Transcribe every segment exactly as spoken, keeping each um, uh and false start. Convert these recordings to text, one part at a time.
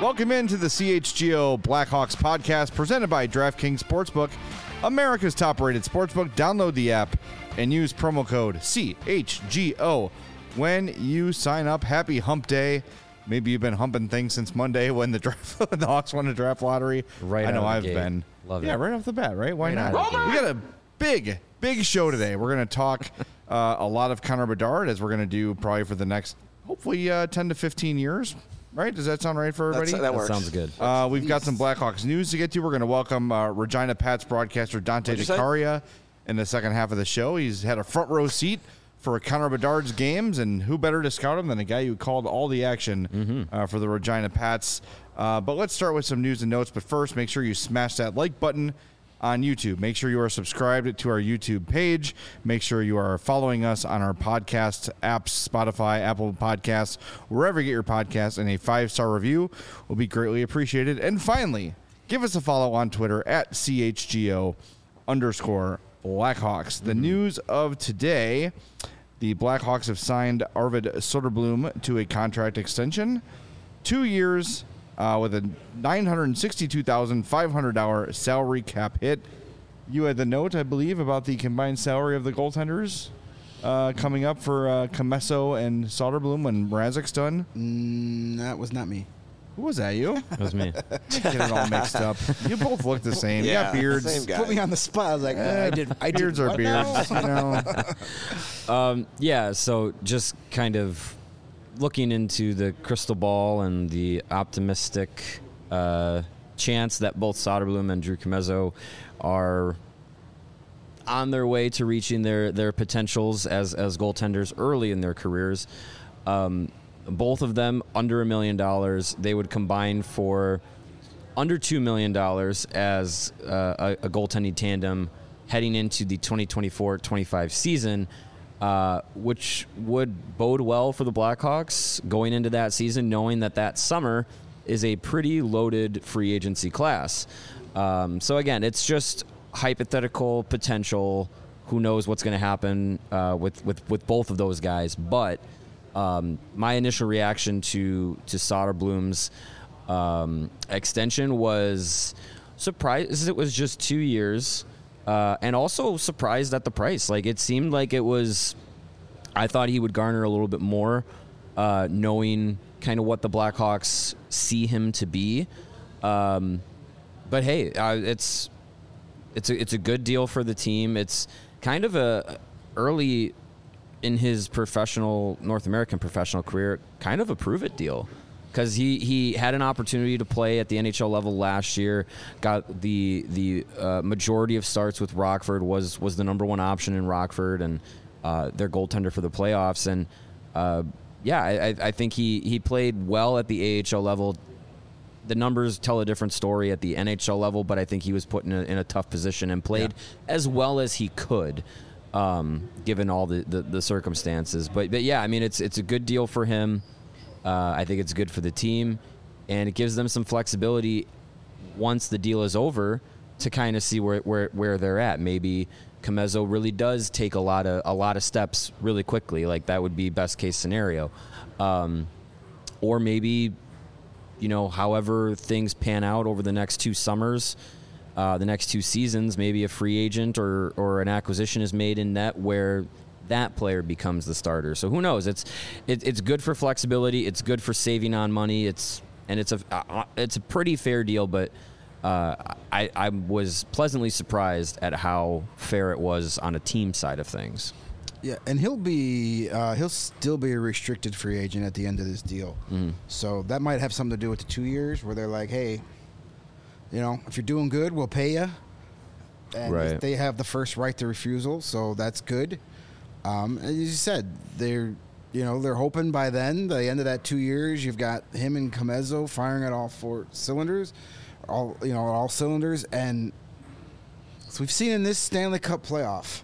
Welcome into the C H G O Blackhawks podcast presented by DraftKings Sportsbook, America's top-rated sportsbook. Download the app and use promo code C H G O when you sign up. Happy hump day. Maybe you've been humping things since Monday when the draft, when the Hawks won the draft lottery. Right, I know out I've of the gate. been. Love yeah, it. right off the bat, right? Why Right not? out of the We got a big, big show today. We're going to talk uh, a lot of Connor Bedard, as we're going to do probably for the next, hopefully, uh, ten to fifteen years. Right? Does that sound right for everybody? That's, that, That works. sounds good. Uh, we've got some Blackhawks news to get to. We're going to welcome uh, Regina Pats broadcaster Dante What'd you say? DeCaria in the second half of the show. He's had a front row seat for Connor Bedard's games, and who better to scout him than a guy who called all the action Mm-hmm. uh, for the Regina Pats. Uh, but let's start with some news and notes. But first, make sure you smash that like button on YouTube. Make sure you are subscribed to our YouTube page. Make sure you are following us on our podcast apps, Spotify, Apple Podcasts, wherever you get your podcasts, and a five-star review will be greatly appreciated. And finally, give us a follow on Twitter at C H G O underscore Blackhawks. The news of today, the Blackhawks have signed Arvid Soderblom to a contract extension, two years, Uh, with a nine hundred sixty-two thousand five hundred dollars salary cap hit. You had the note, I believe, about the combined salary of the goaltenders uh, coming up for uh, Comesso and Soderblom when Mrazek's done. Mm, that was not me. Who was that, you? That was me. Get it all mixed up. You both look the same. Yeah, you got beards. same guy. Put me on the spot. I was like, Uh, I did. I did beards are what beards. now? You know? Um, yeah, so just kind of looking into the crystal ball and the optimistic uh, chance that both Soderblom and Drew Commesso are on their way to reaching their, their potentials as, as goaltenders early in their careers. Um, both of them under a million dollars. They would combine for under two million dollars as uh, a, a goaltending tandem heading into the twenty twenty-four twenty-five season. Uh, which would bode well for the Blackhawks going into that season, knowing that that summer is a pretty loaded free agency class. Um, so again, it's just hypothetical potential. Who knows what's going to happen uh, with, with, with both of those guys? But um, my initial reaction to to Soderblom's um, extension was surprised. It was just two years. Uh, and also surprised at the price. Like, it seemed like it was, I thought he would garner a little bit more, uh, knowing kind of what the Blackhawks see him to be. Um, but hey, uh, it's it's a, it's a good deal for the team. It's kind of a early in his professional, North American professional career, kind of a prove-it deal. Because he, he had an opportunity to play at the N H L level last year, got the the uh, majority of starts with Rockford, was was the number one option in Rockford, and uh, their goaltender for the playoffs. And uh, yeah, I, I think he, he played well at the A H L level. The numbers tell a different story at the N H L level, but I think he was put in a, in a tough position and played yeah. as well as he could, um, given all the, the, the circumstances. But but yeah, I mean, it's it's a good deal for him. Uh, I think it's good for the team, and it gives them some flexibility once the deal is over to kind of see where, where where they're at. Maybe Commesso really does take a lot of a lot of steps really quickly, like that would be best case scenario, um, or maybe, you know, however things pan out over the next two summers, uh, the next two seasons, maybe a free agent or or an acquisition is made in net where that player becomes the starter. So who knows? It's it, it's good for flexibility. It's good for saving on money. It's and it's a uh, it's a pretty fair deal. But uh, I I was pleasantly surprised at how fair it was on a team side of things. Yeah, and he'll be uh, he'll still be a restricted free agent at the end of this deal. Mm-hmm. So that might have something to do with the two years where they're like, hey, you know, if you're doing good, we'll pay you. And Right. they have the first right to refusal, so that's good. Um, as you said, they're you know they're hoping by then, the end of that two years, you've got him and Commesso firing at all four cylinders, all you know, all cylinders, and so we've seen in this Stanley Cup playoff,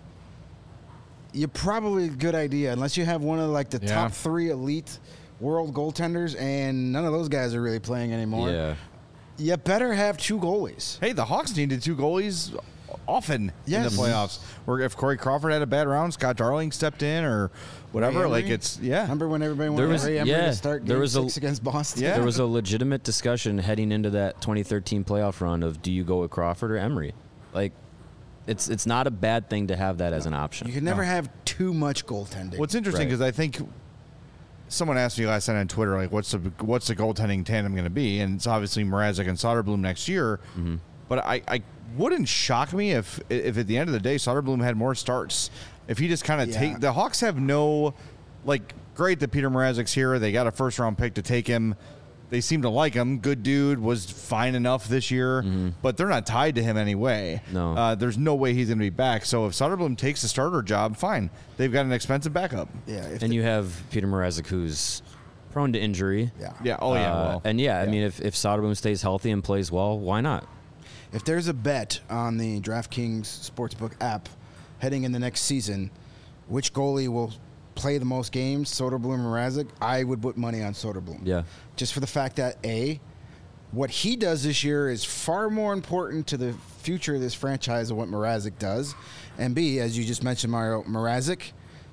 you're probably a good idea unless you have one of like the Yeah. top three elite world goaltenders, and none of those guys are really playing anymore. Yeah. You better have two goalies. Hey, the Hawks needed two goalies often Yes. in the playoffs. Where if Corey Crawford had a bad round, Scott Darling stepped in or whatever. Ray Like Emery? it's yeah. Remember when everybody There wanted was- Ray Emery yeah, to start there game was a- six against Boston? Yeah. There was a legitimate discussion heading into that twenty thirteen playoff run of do you go with Crawford or Emery? Like, it's it's not a bad thing to have that as an option. You can never No. have too much goaltending. What's interesting Right. because I think someone asked me last night on Twitter, like, what's the what's the goaltending tandem going to be? And it's obviously Mrazek and Soderblom next year. Mm-hmm. But I, I wouldn't shock me if if at the end of the day Soderblom had more starts. If he just kind of Yeah. take the Hawks have no like great that Peter Mrazek's here. They got a first round pick to take him. They seem to like him. Good dude, was fine enough this year, but they're not tied to him anyway. No. Uh, there's no way he's going to be back. So if Soderblom takes the starter job, fine. They've got an expensive backup. Yeah. If and the- you have Peter Mrazek, who's prone to injury. yeah. Yeah. Oh, yeah. Uh, well, and yeah, I yeah. mean, if if Soderblom stays healthy and plays well, why not? If there's a bet on the DraftKings Sportsbook app heading in the next season, which goalie will play the most games, Soderblom or Mrazek, I would put money on Soderblom. Yeah. Just for the fact that, A, what he does this year is far more important to the future of this franchise than what Mrazek does. And B, as you just mentioned, Mario, Mrazek,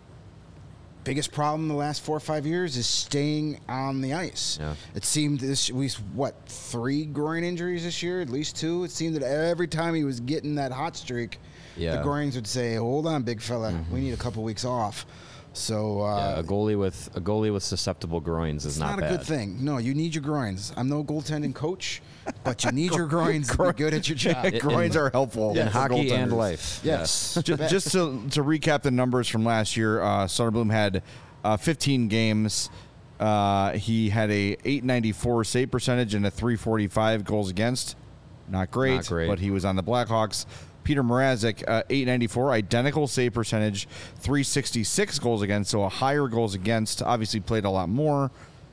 biggest problem the last four or five years is staying on the ice. Yeah. It seemed this we what three groin injuries this year, at least two. It seemed that every time he was getting that hot streak, Yeah. the groins would say, "Hold on, big fella, we need a couple weeks off." So uh, Yeah, a goalie with a goalie with susceptible groins is it's not, not, a bad. good thing. No, you need your groins. I'm no goaltending coach, but you need your groins to be good at your job. It- groins in- are helpful in for hockey and goaltenders. life. Yes. just, just to, to recap the numbers from last year, uh, Soderblom had uh, fifteen games. Uh, he had a eight ninety-four save percentage and a three forty-five goals against. Not great, Not great. but he was on the Blackhawks. Peter Mrazek, uh, eight ninety-four, identical save percentage, three sixty-six goals against, so a higher goals against. Obviously played a lot more.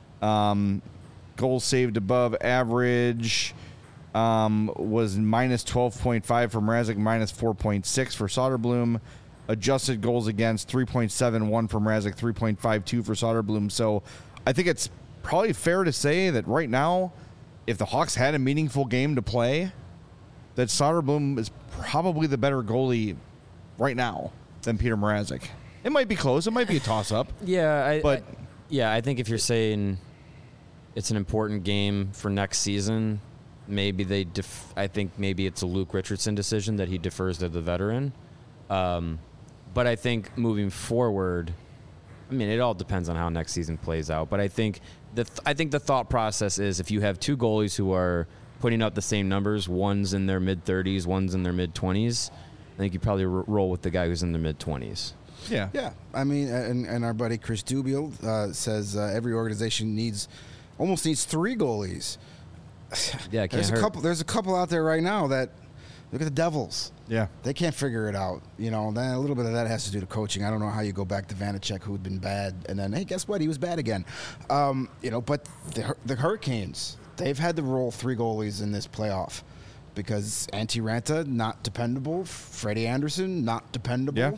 Um, goals saved above average um, was minus twelve point five for Mrazek, minus four point six for Soderblom. Adjusted goals against, three point seven one for Mrazek, three point five two for Soderblom. So I think it's probably fair to say that right now, if the Hawks had a meaningful game to play, that Soderblom is probably the better goalie right now than Peter Mrazek. It might be close. It might be a toss-up. Yeah, I, But- I- yeah, I think if you're saying it's an important game for next season, maybe they. Def- I think maybe it's a Luke Richardson decision that he defers to the veteran. Um, but I think moving forward, I mean, it all depends on how next season plays out. But I think the th- I think the thought process is if you have two goalies who are putting out the same numbers, one's in their mid thirties, one's in their mid twenties, I think you probably r- roll with the guy who's in the mid twenties. Yeah. Yeah, I mean, and, and our buddy Chris Dubiel uh, says uh, every organization needs almost needs three goalies. Yeah, it can't there's a hurt. couple. There's a couple out there right now that look at the Devils. Yeah. They can't figure it out. You know, then a little bit of that has to do to coaching. I don't know how you go back to Vanacek, who had been bad, and then hey, guess what? He was bad again. Um, you know, but the Hur- the Hurricanes, they've had to roll three goalies in this playoff because Antti Ranta not dependable, Freddie Anderson not dependable. Yeah.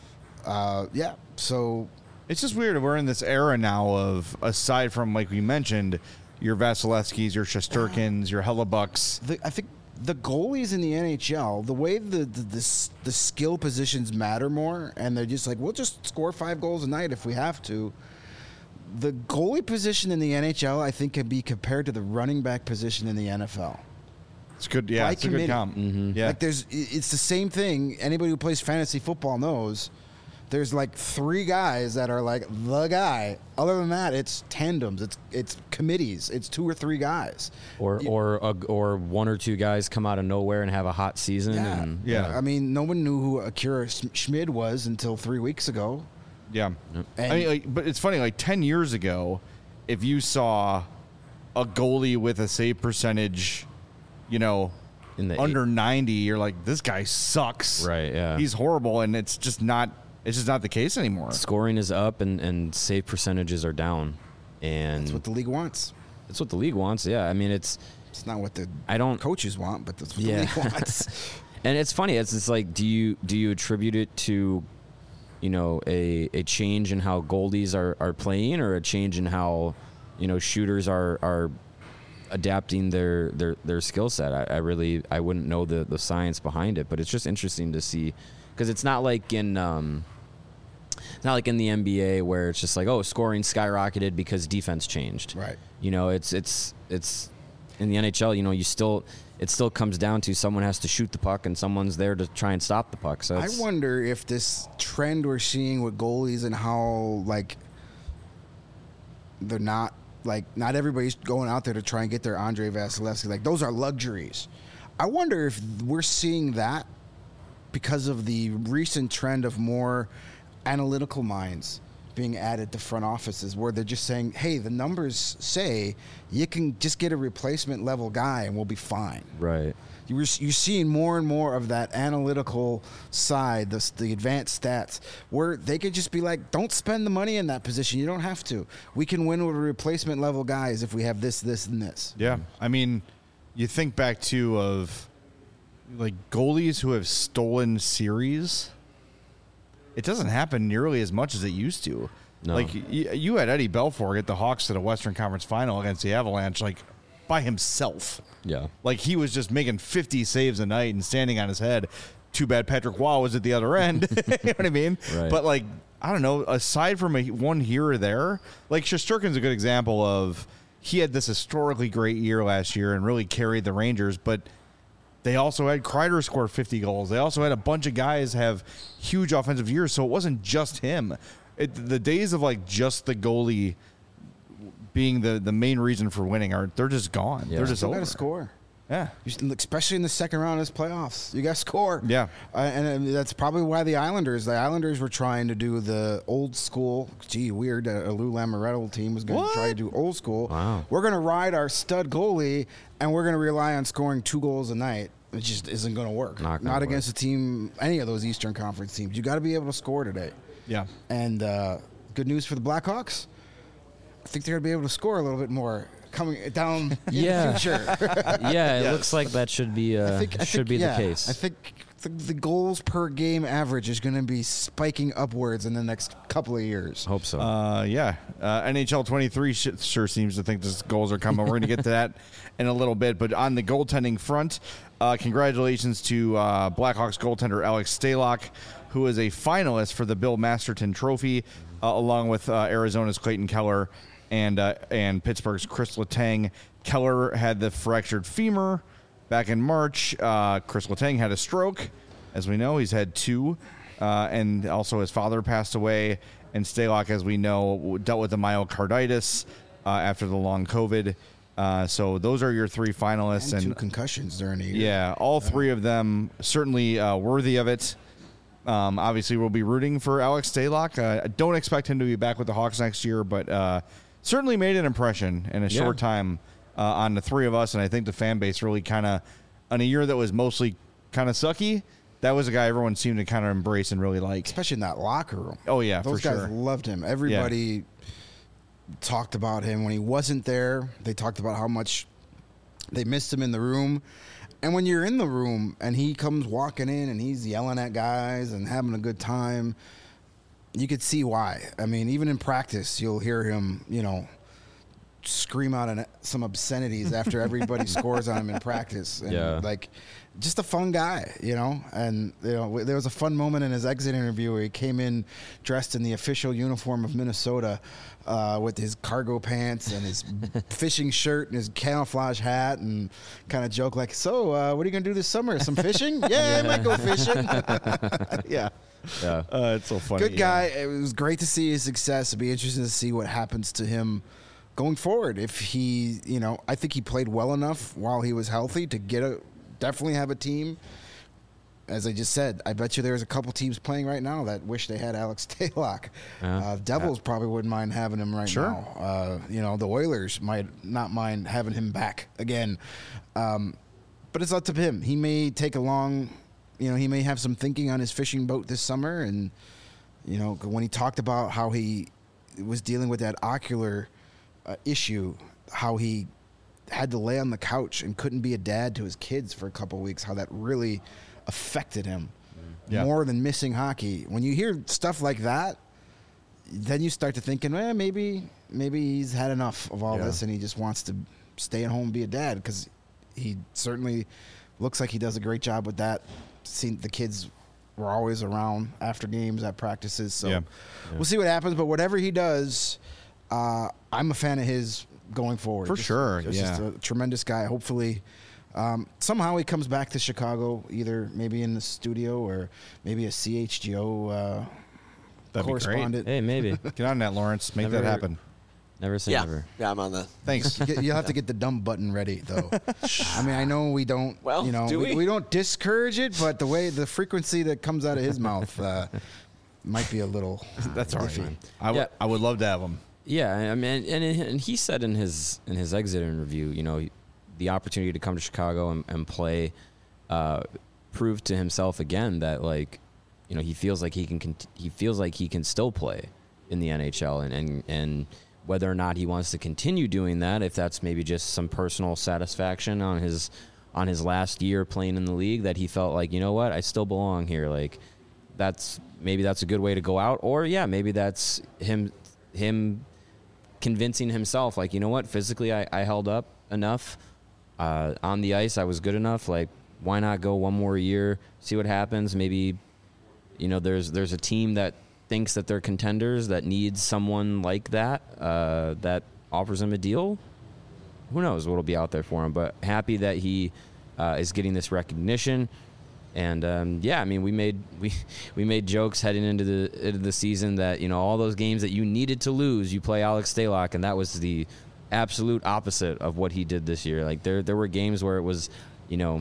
Uh, yeah. So It's just weird. We're in this era now of, aside from, like we mentioned, your Vasilevskis, your Shesterkins, your Hellebucks. the, I think the goalies in the N H L, the way the the, the s- the skill positions matter more, and they're just like, we'll just score five goals a night if we have to. The goalie position in the N H L, I think, can be compared to the running back position in the N F L. It's good. Yeah, By it's a good committee. comp. Mm-hmm. Yeah. Like there's, i- it's the same thing. Anybody who plays fantasy football knows. There's like three guys that are like the guy. Other than that, it's tandems. It's it's committees. It's two or three guys. Or You- or a, or one or two guys come out of nowhere and have a hot season. Yeah. And, Yeah. I mean, no one knew who Akira Sch- Schmid was until three weeks ago. Yeah. And- I mean, like, but it's funny. Like ten years ago, if you saw a goalie with a save percentage, you know, In the under ninety, you're like, this guy sucks. Right, yeah. He's horrible, and it's just not. It's just not the case anymore. Scoring is up and, and save percentages are down. And That's what the league wants. that's what the league wants. Yeah. I mean, it's, It's not what the I don't, coaches want, but that's what Yeah. the league wants. and it's funny. It's, it's like, do you, do you attribute it to, you know, a, a change in how goalies are, are playing or a change in how, you know, shooters are, are adapting their their, their skill set. I, I really I wouldn't know the, the science behind it, but it's just interesting to see because it's not like in um, it's not like in the N B A where it's just like, oh, scoring skyrocketed because defense changed. Right. You know, it's it's it's in the N H L. You know, you still it still comes down to someone has to shoot the puck and someone's there to try and stop the puck. So I it's, wonder if this trend we're seeing with goalies and how like they're not like not everybody's going out there to try and get their Andrei Vasilevsky. Like those are luxuries. I wonder if we're seeing that because of the recent trend of more analytical minds being added to front offices where they're just saying, hey, the numbers say you can just get a replacement level guy and we'll be fine. right. You're, you're seeing more and more of that analytical side, the, the advanced stats, where they could just be like, don't spend the money in that position. You don't have to. We can win with replacement level guys if we have this, this, and this. Yeah. I mean, you think back to of like goalies who have stolen series. It doesn't happen nearly as much as it used to. No. Like y- you had Eddie Belfour get the Hawks to the Western Conference Final against the Avalanche, like by himself. Yeah. Like he was just making fifty saves a night and standing on his head. Too bad Patrick Waugh was at the other end. You know what I mean? Right. But like, I don't know, aside from a, one here or there, like Shesterkin's a good example of he had this historically great year last year and really carried the Rangers, but they also had Kreider score fifty goals. They also had a bunch of guys have huge offensive years, so it wasn't just him. It, the days of like just the goalie being the, the main reason for winning are they're just gone. Yeah. They're just Still over. got to score. Yeah. You should- especially in the second round of this playoffs. You got to score. Yeah. Uh, and uh, that's probably why the Islanders, the Islanders were trying to do the old school. Gee, weird. Uh, a Lou Lamoriello team was going to What? try to do old school. Wow. We're going to ride our stud goalie, and we're going to rely on scoring two goals a night. It just isn't going to work. Not gonna Not work. against a team, any of those Eastern Conference teams. You got to be able to score today. Yeah. And uh, good news for the Blackhawks. I think they're going to be able to score a little bit more coming down in Yeah. the future. Yeah, it Yes. looks like that should be uh, I think, I should think, be yeah, the case. I think the, the goals per game average is going to be spiking upwards in the next couple of years. Hope so. Uh, yeah. Uh, N H L twenty-three sh- sure seems to think the goals are coming. We're going to get to that in a little bit. But on the goaltending front, uh, congratulations to uh, Blackhawks goaltender Alex Stalock, who is a finalist for the Bill Masterton Trophy, uh, along with uh, Arizona's Clayton Keller and uh, and Pittsburgh's Chris Letang. Keller had the fractured femur back in March. Uh, Chris Letang had a stroke. As we know, he's had two. Uh, and also his father passed away. And Stalock, as we know, dealt with the myocarditis uh, after the long COVID. Uh, so those are your three finalists. And two And, concussions during the year. yeah, all three of them certainly uh, worthy of it. Um, obviously, we'll be rooting for Alex Stalock. Uh, I don't expect him to be back with the Hawks next year, but uh, certainly made an impression in a Yeah. short time uh, on the three of us. And I think the fan base really kind of, on a year that was mostly kind of sucky, that was a guy everyone seemed to kind of embrace and really like. Especially in that locker room. Oh, yeah, Those for guys sure. loved him. Everybody talked about him when he wasn't there. They talked about how much they missed him in the room. And when you're in the room and he comes walking in and he's yelling at guys and having a good time, you could see why. I mean, even in practice, you'll hear him, you know, scream out an, some obscenities after everybody scores on him in practice. And Yeah. like, just a fun guy, you know. And you know, there was a fun moment in his exit interview where he came in dressed in the official uniform of Minnesota, uh, with his cargo pants and his fishing shirt and his camouflage hat, and kind of joked like, "So, uh, what are you gonna do this summer? Some fishing? Yeah, I might go fishing." yeah. yeah. Uh, it's so funny. Good yeah. guy. It was great to see his success. It'd be interesting to see what happens to him going forward. If he, you know, I think he played well enough while he was healthy to get a definitely have a team. As I just said, I bet you there's a couple teams playing right now that wish they had Alex Stalock. Yeah. Uh, Devils probably wouldn't mind having him right Sure. now. Uh, you know, the Oilers might not mind having him back again. Um, but it's up to him. He may take a long, you know, he may have some thinking on his fishing boat this summer. And, you know, when he talked about how he was dealing with that ocular uh, issue, how he had to lay on the couch and couldn't be a dad to his kids for a couple of weeks, how that really affected him Yeah. more than missing hockey. When you hear stuff like that, then you start to thinking, well, maybe maybe he's had enough of all Yeah. this and he just wants to staying home and be a dad, because he certainly looks like he does a great job with that. Seen the kids were always around after games, at practices. So Yeah. we'll see what happens. But whatever he does, uh, I'm a fan of his going forward. For Just- sure, Just, yeah. just a tremendous guy. Hopefully, um, somehow he comes back to Chicago, either maybe in the studio or maybe a C H G O uh, That'd be great. correspondent. Hey, maybe. Get on that, Lawrence. Make Never- that happen. Never say Yeah, never. yeah, I'm on the. Thanks. You get- You'll have to get the dumb button ready, though. I mean, I know we don't, Well, you know, do we? we? we don't discourage it, but the way, the frequency that comes out of his mouth uh, might be a little. That's all right. iffy. I would Yeah. I would love to have him. Yeah, I mean, and and he said in his in his exit interview, you know, the opportunity to come to Chicago and, and play, uh, proved to himself again that, like, you know, he feels like he can cont- he feels like he can still play in the N H L, and, and and whether or not he wants to continue doing that, if that's maybe just some personal satisfaction on his on his last year playing in the league, that he felt like, you know what, I still belong here. Like, that's maybe that's a good way to go out, or yeah, maybe that's him him. convincing himself, like, you know what, physically I, I held up enough. Uh, on the ice, I was good enough. Like, why not go one more year, see what happens? Maybe, you know, there's there's a team that thinks that they're contenders that needs someone like that, uh, that offers him a deal. Who knows what'll be out there for him? But happy that he uh, is getting this recognition. And um, yeah, I mean, we made we we made jokes heading into the into the season that, you know, all those games that you needed to lose, you play Alex Stalock, and that was the absolute opposite of what he did this year. Like, there there were games where it was, you know,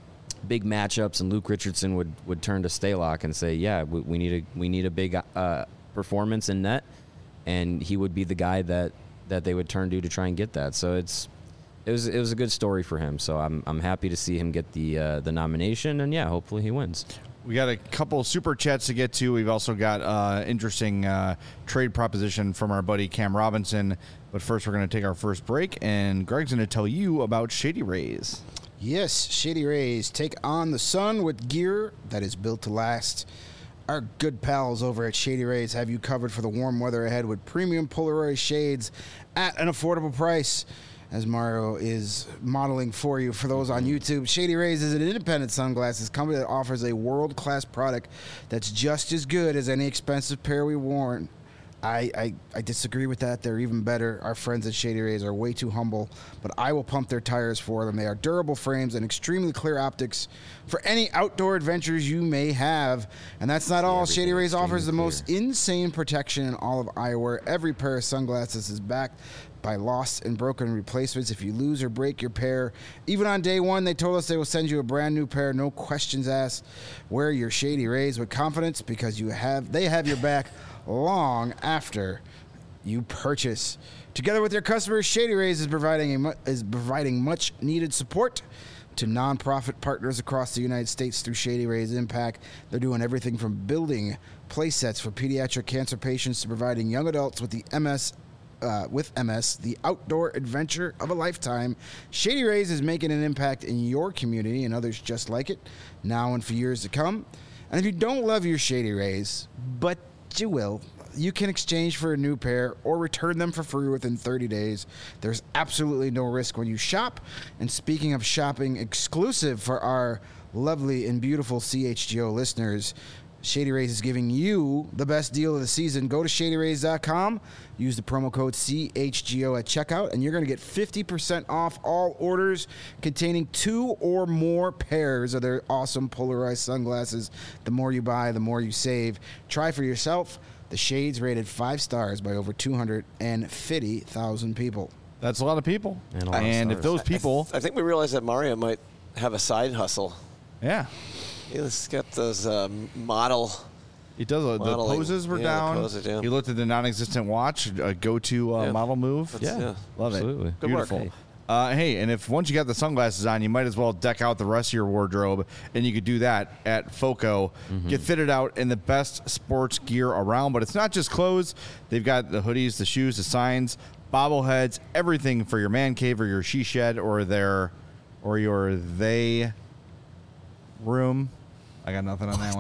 big matchups, and Luke Richardson would, would turn to Stalock and say, "Yeah, we, we need a we need a big uh, performance in net," and he would be the guy that, that they would turn to to try and get that. So it's. It was it was a good story for him, so I'm I'm happy to see him get the uh, the nomination, and yeah, hopefully he wins. We got a couple super chats to get to. We've also got uh, interesting uh, trade proposition from our buddy Cam Robinson. But first, we're going to take our first break, and Greg's going to tell you about Shady Rays. Yes, Shady Rays take on the sun with gear that is built to last. Our good pals over at Shady Rays have you covered for the warm weather ahead with premium Polaroid shades at an affordable price. As Mario is modeling for you, for those on YouTube, Shady Rays is an independent sunglasses company that offers a world-class product that's just as good as any expensive pair we worn. I, I, I disagree with that. They're even better. Our friends at Shady Rays are way too humble, but I will pump their tires for them. They are durable frames and extremely clear optics for any outdoor adventures you may have. And that's not all. everything Shady Rays offers the extremely most insane protection in all of eyewear. Every pair of sunglasses is backed by lost and broken replacements. If you lose or break your pair, even on day one, they told us they will send you a brand new pair, no questions asked. Wear your Shady Rays with confidence, because you have they have your back long after you purchase. Together with their customers, Shady Rays is providing a mu- is providing much needed support to nonprofit partners across the United States through Shady Rays Impact. They're doing everything from building play sets for pediatric cancer patients to providing young adults with the M S Uh, with M S, the outdoor adventure of a lifetime. Shady Rays is making an impact in your community and others just like it, now and for years to come. And if you don't love your Shady Rays, but you will, you can exchange for a new pair or return them for free within thirty days. There's absolutely no risk when you shop. And speaking of shopping, exclusive for our lovely and beautiful C H G O listeners, Shady Rays is giving you the best deal of the season. Go to shady rays dot com, use the promo code C H G O at checkout, and you're going to get fifty percent off all orders containing two or more pairs of their awesome polarized sunglasses. The more you buy, the more you save. Try for yourself. The shades rated five stars by over two hundred fifty thousand people. That's a lot of people. And a lot of And if stars. those I, th- people, I think we realized that Mario might have a side hustle. yeah, He's got those um, model. he does. Uh, the Modeling. poses were Yeah, the down. poses, yeah. He looked at the non-existent watch, a go-to uh, Yeah. model move. That's- Yeah. yeah. Love Absolutely. it. Good work. Beautiful. Hey. Uh, hey, and if once you got the sunglasses on, you might as well deck out the rest of your wardrobe, and you could do that at FOCO. Mm-hmm. Get fitted out in the best sports gear around, but it's not just clothes. They've got the hoodies, the shoes, the signs, bobbleheads, everything for your man cave or your she shed or their or your they room. I got nothing on that one.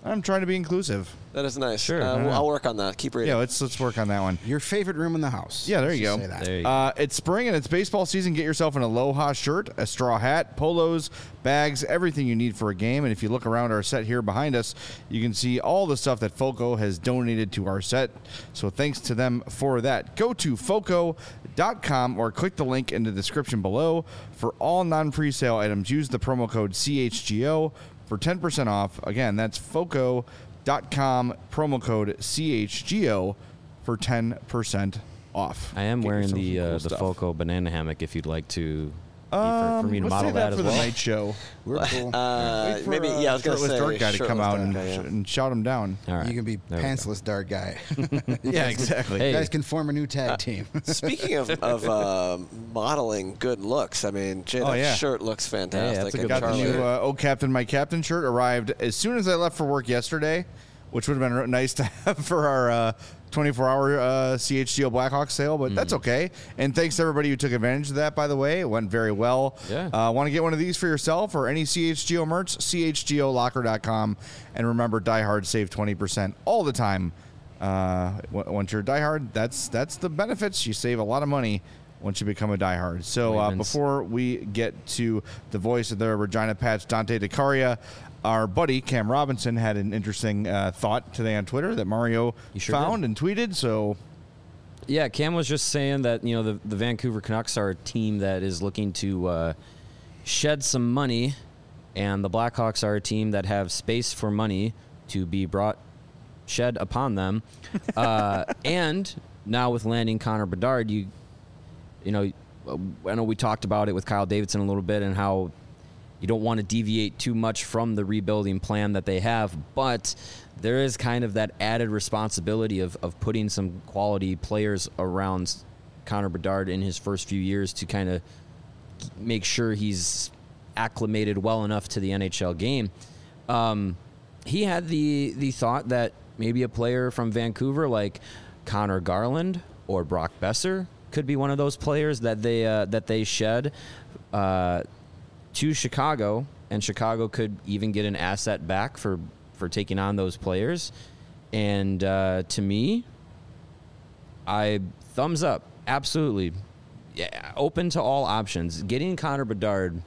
I'm trying to be inclusive. That is nice. Sure. Uh, Yeah. well, I'll work on that. Keep reading. Yeah, let's let's work on that one. Your favorite room in the house. Yeah, there Let's you just go. say that. There you go. Uh, it's spring and it's baseball season. Get yourself an Aloha shirt, a straw hat, polos, bags, everything you need for a game. And if you look around our set here behind us, you can see all the stuff that Foco has donated to our set. So thanks to them for that. Go to foco dot com or click the link in the description below. For all non-presale items, use the promo code C H G O for ten percent off. Again, that's foco dot com, promo code C H G O for ten percent off. I am Get wearing yourself the some cool uh, the stuff. Foco banana hammock. If you'd like to, for, Um, for me to let's model save that, that, for as the well. night show. We're cool. Uh, Wait for, maybe, uh, yeah, I was going to shirtless say. Dark guy to come shirtless out dark and, guy, yeah. and shout him down. All right. You can be There we go. pantsless dark guy. Yeah, exactly. Hey. You guys can form a new tag team. Speaking of, of uh, modeling good looks, I mean, Jay, Oh, that yeah. shirt looks fantastic. that's a And good Got the Charlie- new uh, "Oh Captain, My Captain" shirt. Arrived as soon as I left for work yesterday, which would have been nice to have for our uh, twenty-four hour uh, C H G O Blackhawks sale, but that's okay. And thanks to everybody who took advantage of that, by the way. It went very well. Yeah. Uh, Want to get one of these for yourself or any C H G O merch? C H G O locker dot com. And remember, Die Hard save twenty percent all the time. Uh, w- once you're a Die Hard, that's, that's the benefits. You save a lot of money once you become a diehard. So uh, Ravens. before we get to the voice of the Regina Pats, Dante DeCaria, our buddy Cam Robinson had an interesting uh, thought today on Twitter that Mario He sure found did. and tweeted. So Yeah, Cam was just saying that, you know, the, the Vancouver Canucks are a team that is looking to uh, shed some money, and the Blackhawks are a team that have space for money to be brought, shed upon them. uh, and now with landing Connor Bedard, you, you know, I know we talked about it with Kyle Davidson a little bit and how you don't want to deviate too much from the rebuilding plan that they have, but there is kind of that added responsibility of, of putting some quality players around Connor Bedard in his first few years to kind of make sure he's acclimated well enough to the N H L game. Um, he had the the thought that maybe a player from Vancouver like Connor Garland or Brock Besser could be one of those players that they uh, that they shed uh, to Chicago, and Chicago could even get an asset back for, for taking on those players. And uh, to me, I thumbs up, absolutely, yeah, open to all options. Getting Connor Bedard,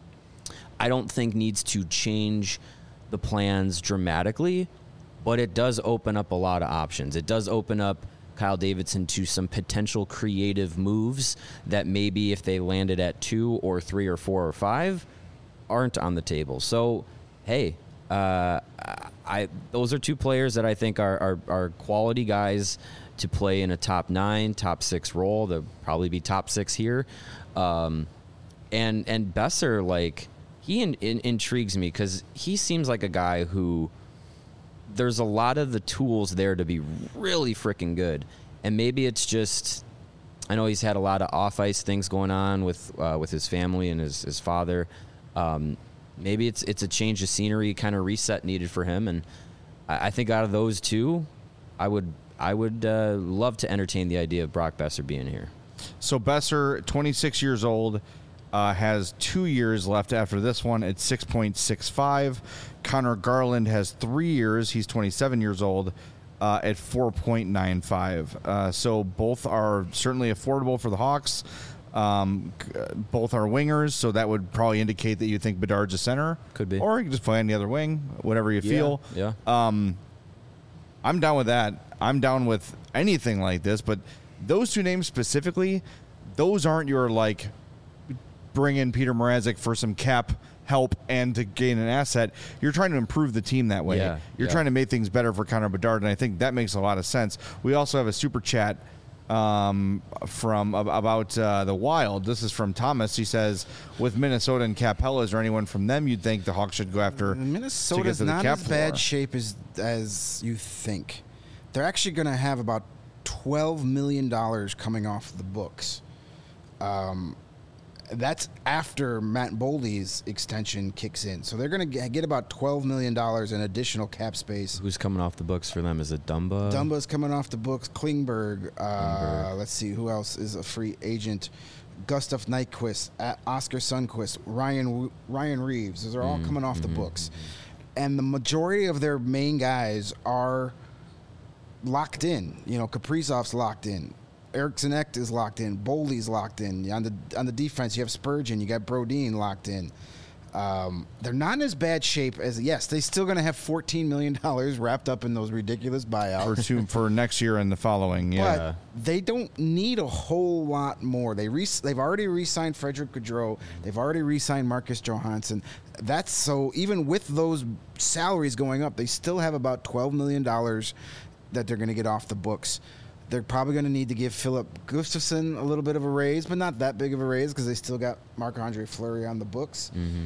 I don't think needs to change the plans dramatically, but it does open up a lot of options. It does open up Kyle Davidson to some potential creative moves that maybe if they landed at two or three or four or five aren't on the table. So, hey, uh, I those are two players that I think are, are, are quality guys to play in a top nine, top six role. They'll probably be top six here. Um, and and Besser, like, he in, in, intrigues me because he seems like a guy who there's a lot of the tools there to be really freaking good. And maybe it's just, I know he's had a lot of off-ice things going on with uh, with his family and his, his father. Um, maybe it's it's a change of scenery, kind of reset needed for him. And I, I think out of those two, I would I would uh, love to entertain the idea of Brock Besser being here. So Besser, twenty-six years old, uh, has two years left after this one at six point six five. Connor Garland has three years. He's twenty-seven years old uh, at four point nine five. Uh, so both are certainly affordable for the Hawks. Um, c- both are wingers, so that would probably indicate that you think Bedard's a center. Could be. Or you can just play on the other wing, whatever you feel. Yeah. I'm down with that. I'm down with anything like this, but those two names specifically, those aren't your, like, bring in Peter Mrazek for some cap help and to gain an asset. You're trying to improve the team that way. Yeah, You're yeah. trying to make things better for Connor Bedard, and I think that makes a lot of sense. We also have a super chat um, from ab- about uh, the Wild. This is from Thomas. He says, with Minnesota and Capella, is there anyone from them you'd think the Hawks should go after? Minnesota's to the not cap as bad floor? shape as as you think. They're actually going to have about twelve million dollars coming off the books. Um, that's after Matt Boldy's extension kicks in. So they're going to get about twelve million dollars in additional cap space. Who's coming off the books for them? Is it Dumba? Dumba's coming off the books. Klingberg. Uh, Klingberg. Let's see who else is a free agent. Gustav Nyquist, uh, Oscar Sundquist, Ryan Ryan Reeves. Those are all coming off the books. and the majority of their main guys are locked in. You know, Kaprizov's locked in. Eriksson Ek is locked in. Boldy's locked in. On the on the defense, you have Spurgeon. You got Brodin locked in. Um, they're not in as bad shape as, yes, they're still going to have fourteen million dollars wrapped up in those ridiculous buyouts. For, two, for next year and the following, yeah. But they don't need a whole lot more. They re- They've already re-signed Frederick Gaudreau. They've already re-signed Marcus Johansson. That's so, even with those salaries going up, they still have about twelve million dollars that they're going to get off the books. They're probably going to need to give Philip Gustafsson a little bit of a raise, but not that big of a raise because they still got Marc-Andre Fleury on the books. Mm-hmm.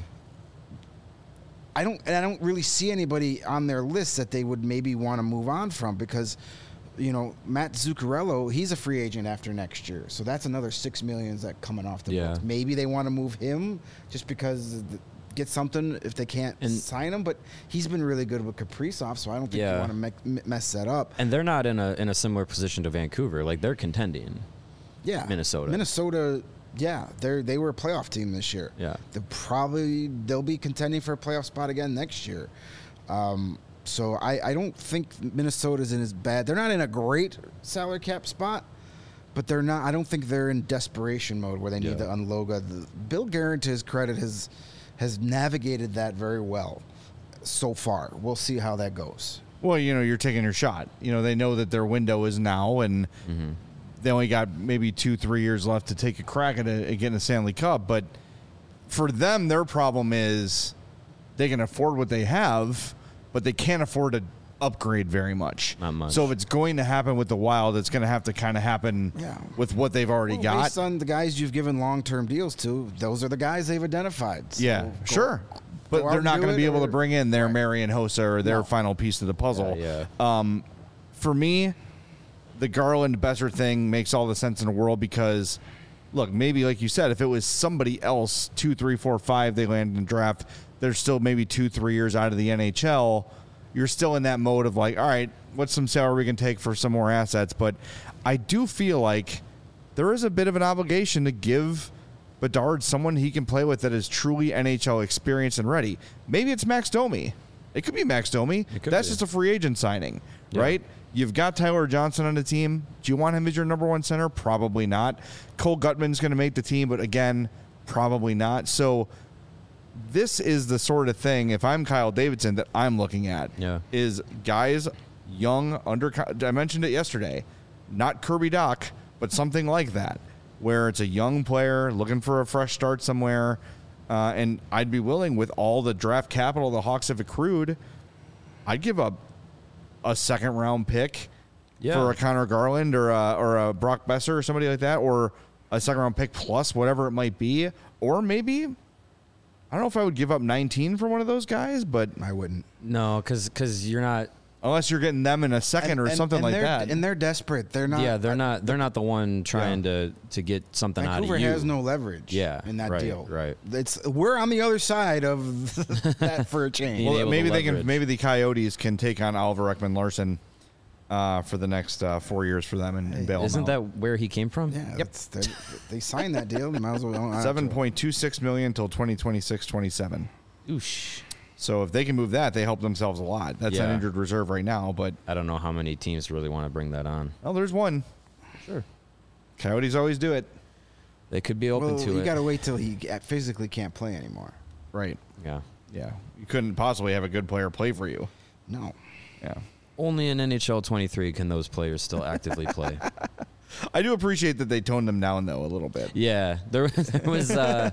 I don't, and I don't really see anybody on their list that they would maybe want to move on from because, you know, Matt Zuccarello, he's a free agent after next year, so that's another six millions that coming off the Yeah. books. Maybe they want to move him just because the, get something if they can't And- sign him, but he's been really good with Kaprizov, so I don't think Yeah. you want to me- mess that up. And they're not in a in a similar position to Vancouver. Like they're contending. Yeah, Minnesota. Minnesota. Yeah, they they were a playoff team this year. Yeah. They'll probably they'll be contending for a playoff spot again next year. Um, so I, I don't think Minnesota's in as bad. They're not in a great salary cap spot, but they're not. I don't think they're in desperation mode where they need Yeah. to unload. The, Bill Guerin, to his credit, has has navigated that very well so far. We'll see how that goes. Well, you know, you're taking your shot. You know, they know that their window is now, and Mm-hmm. they only got maybe two, three years left to take a crack at, a, at getting a Stanley Cup. But for them, their problem is they can afford what they have, but they can't afford to upgrade very much. Not much. So if it's going to happen with the Wild, it's going to have to kind of happen Yeah. with what they've already Well, got. based on the guys you've given long-term deals to, those are the guys they've identified. So Yeah, go- sure. But go out they're and not do going to it, be able or- to bring in their Right. Marian Hossa or their No. final piece of the puzzle. Yeah, Um, for me, the Garland Besser thing makes all the sense in the world because, look, maybe like you said, if it was somebody else, two, three, four, five, they land in the draft, they're still maybe two, three years out of the N H L. You're still in that mode of like, all right, what's some salary we can take for some more assets? But I do feel like there is a bit of an obligation to give Bedard someone he can play with that is truly N H L experienced and ready. Maybe it's Max Domi. It could be Max Domi. could That's be. just a free agent signing, Yeah. right? You've got Tyler Johnson on the team. Do you want him as your number one center? Probably not. Cole Gutman's going to make the team, but again, probably not. So this is the sort of thing, if I'm Kyle Davidson, that I'm looking at. Yeah. Is guys young, under, I mentioned it yesterday, not Kirby Doc, but something like that, where it's a young player looking for a fresh start somewhere. Uh, and I'd be willing, with all the draft capital the Hawks have accrued, I'd give up a second round pick Yeah. for a Connor Garland or a, or a Brock Besser or somebody like that, or a second round pick plus whatever it might be. Or maybe, I don't know if I would give up nineteen for one of those guys, but I wouldn't. No, because you're not. unless you're getting them in a second And- or and- something and like they're- that. And they're desperate. They're not. yeah, they're not. They're not the one trying to to get something Vancouver out of you. has no leverage. Yeah, in that right, deal. right. It's we're on the other side of that for a change. Being well, able to maybe they can. leverage. Maybe the Coyotes can take on Oliver Ekman Larson uh, for the next uh, four years for them and, and bail them Isn't out. that where he came from? yeah, that's- they they signed that deal. They might as well own it. seven point two six million until twenty twenty-six twenty-seven. Oosh. So if they can move that, they help themselves a lot. That's an Yeah. injured reserve right now, but I don't know how many teams really want to bring that on. oh, there's one. Sure. Coyotes always do it. They could be open Well, to you it. got to wait till he physically can't play anymore. Right. yeah. Yeah. You couldn't possibly have a good player play for you. No. Yeah. Only in N H L twenty-three can those players still actively play. I do appreciate that they toned them down though a little bit. Yeah, there, there was uh,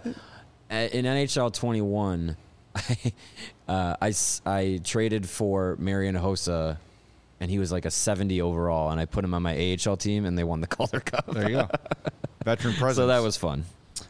a- in N H L twenty-one. I, uh, I, s- I traded for Marian Hossa, and he was like a seventy overall, and I put him on my A H L team, and they won the Calder Cup. There you go. Veteran presence. So that was fun.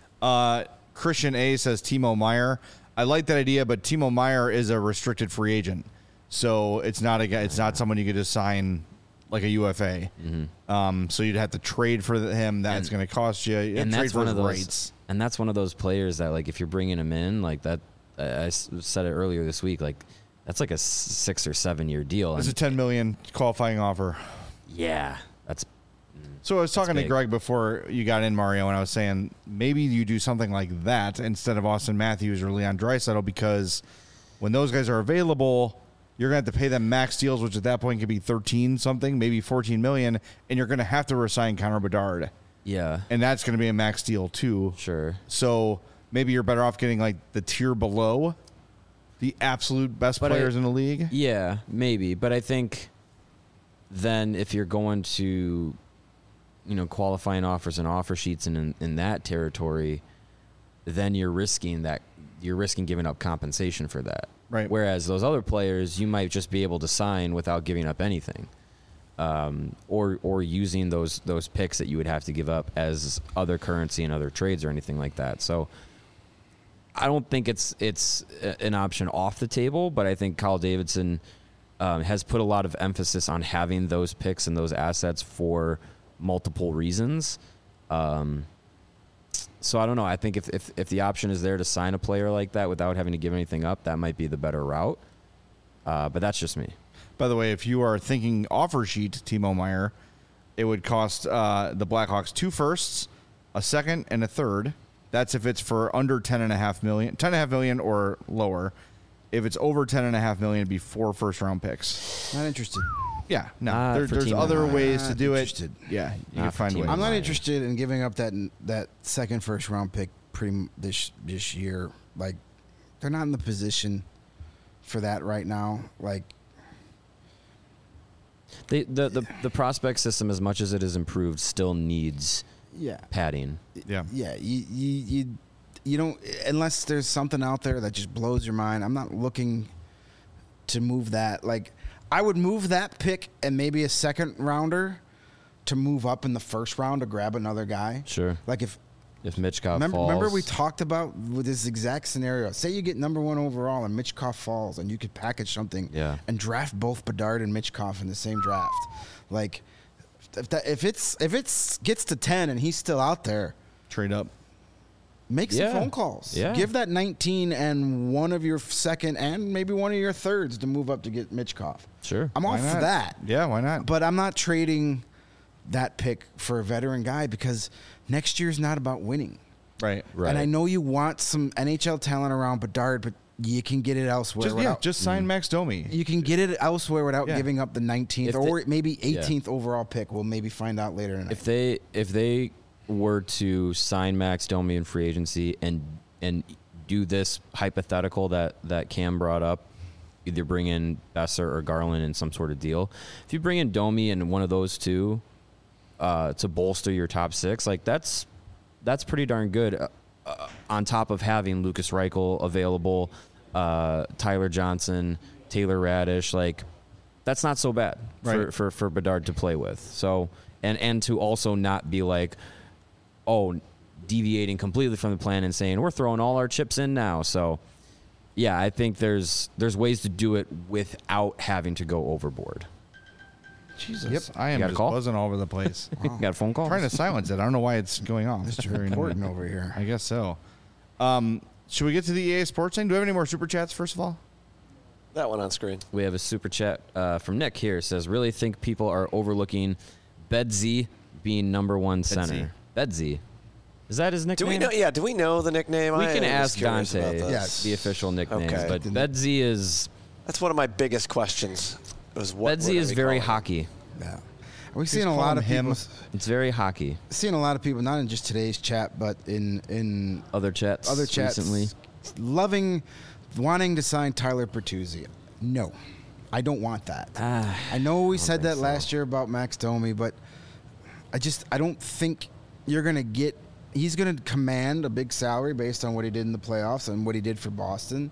Uh, Christian A says Timo Meyer. I like that idea, but Timo Meyer is a restricted free agent, so it's not a guy. It's not someone you could just sign like a U F A. Um, so you'd have to trade for him. That's And- going to cost you. You have and to trade that's for one his of those. rights. And that's one of those players that, like, if you're bringing him in, like that, I I s- said it earlier this week, like that's like a s- six or seven year deal. It's a And ten million qualifying offer. yeah, that's So I was talking to big. Greg before you got in, Mario, and I was saying maybe you do something like that instead of Austin Matthews or Leon Draisaitl because When those guys are available, you're going to have to pay them max deals, which at that point could be thirteen something, maybe fourteen million, and you're going to have to resign Connor Bedard. Yeah. And that's going to be a max deal too. Sure. So maybe you're better off getting like the tier below the absolute best But players I- in the league. Yeah, maybe. But I think then if you're going to, you know, qualifying offers and offer sheets and in, in that territory, then you're risking that you're risking giving up compensation for that. Right. Whereas those other players, you might just be able to sign without giving up anything. Um, or or using those those picks that you would have to give up as other currency in other trades or anything like that. So I don't think it's it's a- an option off the table, but I think Kyle Davidson um, has put a lot of emphasis on having those picks and those assets for multiple reasons. Um, so I don't know. I think if, if if the option is there to sign a player like that without having to give anything up, that might be the better route. Uh, but that's just me. By the way, if you are thinking offer sheet, Timo Meyer, it would cost uh, the Blackhawks two firsts, a second, and a third. That's if it's for under ten and a half million, ten and a half million or lower. If it's over ten and a half million, it'd be four first round picks. Not interested. Yeah, no, Not there, for there's Timo other Meyer. ways to Not do interested. it. Yeah, you Not can for find Timo ways. I'm not Meyer. interested in giving up that that second first round pick pretty m- this this year. Like they're not in the position for that right now. Like They, the, the the prospect system, as much as it has improved, still needs yeah, padding. Yeah, yeah. You you you you don't unless there's something out there that just blows your mind. I'm not looking to move that. Like I would move that pick and maybe a second rounder to move up in the first round to grab another guy. Sure. Like if If Mitchkov Remember, falls. remember we talked about with this exact scenario. Say you get number one overall and Mitchkov falls, and you could package something Yeah. and draft both Bedard and Mitchkov in the same draft. Like, if that if it's if it's gets to ten and he's still out there, trade up. make some Yeah. phone calls. Yeah. Give that nineteen and one of your second and maybe one of your thirds to move up to get Mitchkov. Sure. I'm Why all for not? that. Yeah, why not? But I'm not trading that pick for a veteran guy because next year's not about winning. right, Right. And I know you want some N H L talent around Bedard, but you can get it elsewhere. Just yeah, without, just sign Max Domi. you can get it elsewhere without Yeah. giving up the nineteenth If or they- maybe eighteenth overall pick. We'll maybe find out later tonight. If they if they were to sign Max Domi in free agency and and do this hypothetical that that Cam brought up, either bring in Besser or Garland in some sort of deal. If you bring in Domi and one of those two uh, to bolster your top six, like that's that's pretty darn good. Uh, uh, on top of having Lucas Reichel available, uh, Tyler Johnson, Taylor Radish, like that's not so bad for, Right. for, for Bedard to play with. So and and to also not be like, oh, deviating completely from the plan and saying we're throwing all our chips in now. So yeah, I think there's there's ways to do it without having to go overboard. Jesus, Yep. I am You got a just call? buzzing all over the place. Got a phone call? Trying to silence it. I don't know why it's going off. Mister Very Important annoying. over here. I guess so. Um, should we get to the E A Sports thing? Do we have any more super chats? First of all, That one on screen. We have a super chat uh, from Nick here. It says, really think people are overlooking Bedsy being number one center. Bedsy. Is that his Do nickname? we know? Yeah. Do we know the nickname? We I can am ask just curious Dante about this. Yes. the official nickname, Okay. but Bedsy is That's one of my biggest questions. Was what? Bedsy what is are we very calling it? hockey. Yeah. We've Just seen a call lot him of him. people. It's very hockey. Seen a lot of people, not in just today's chat, but in in Other chats, other chats, recently. loving, wanting to sign Tyler Bertuzzi. No, I don't want that. Ah, I know we I don't said think that so. last year about Max Domi, but I just I don't think you're gonna get. He's gonna command a big salary based on what he did in the playoffs and what he did for Boston,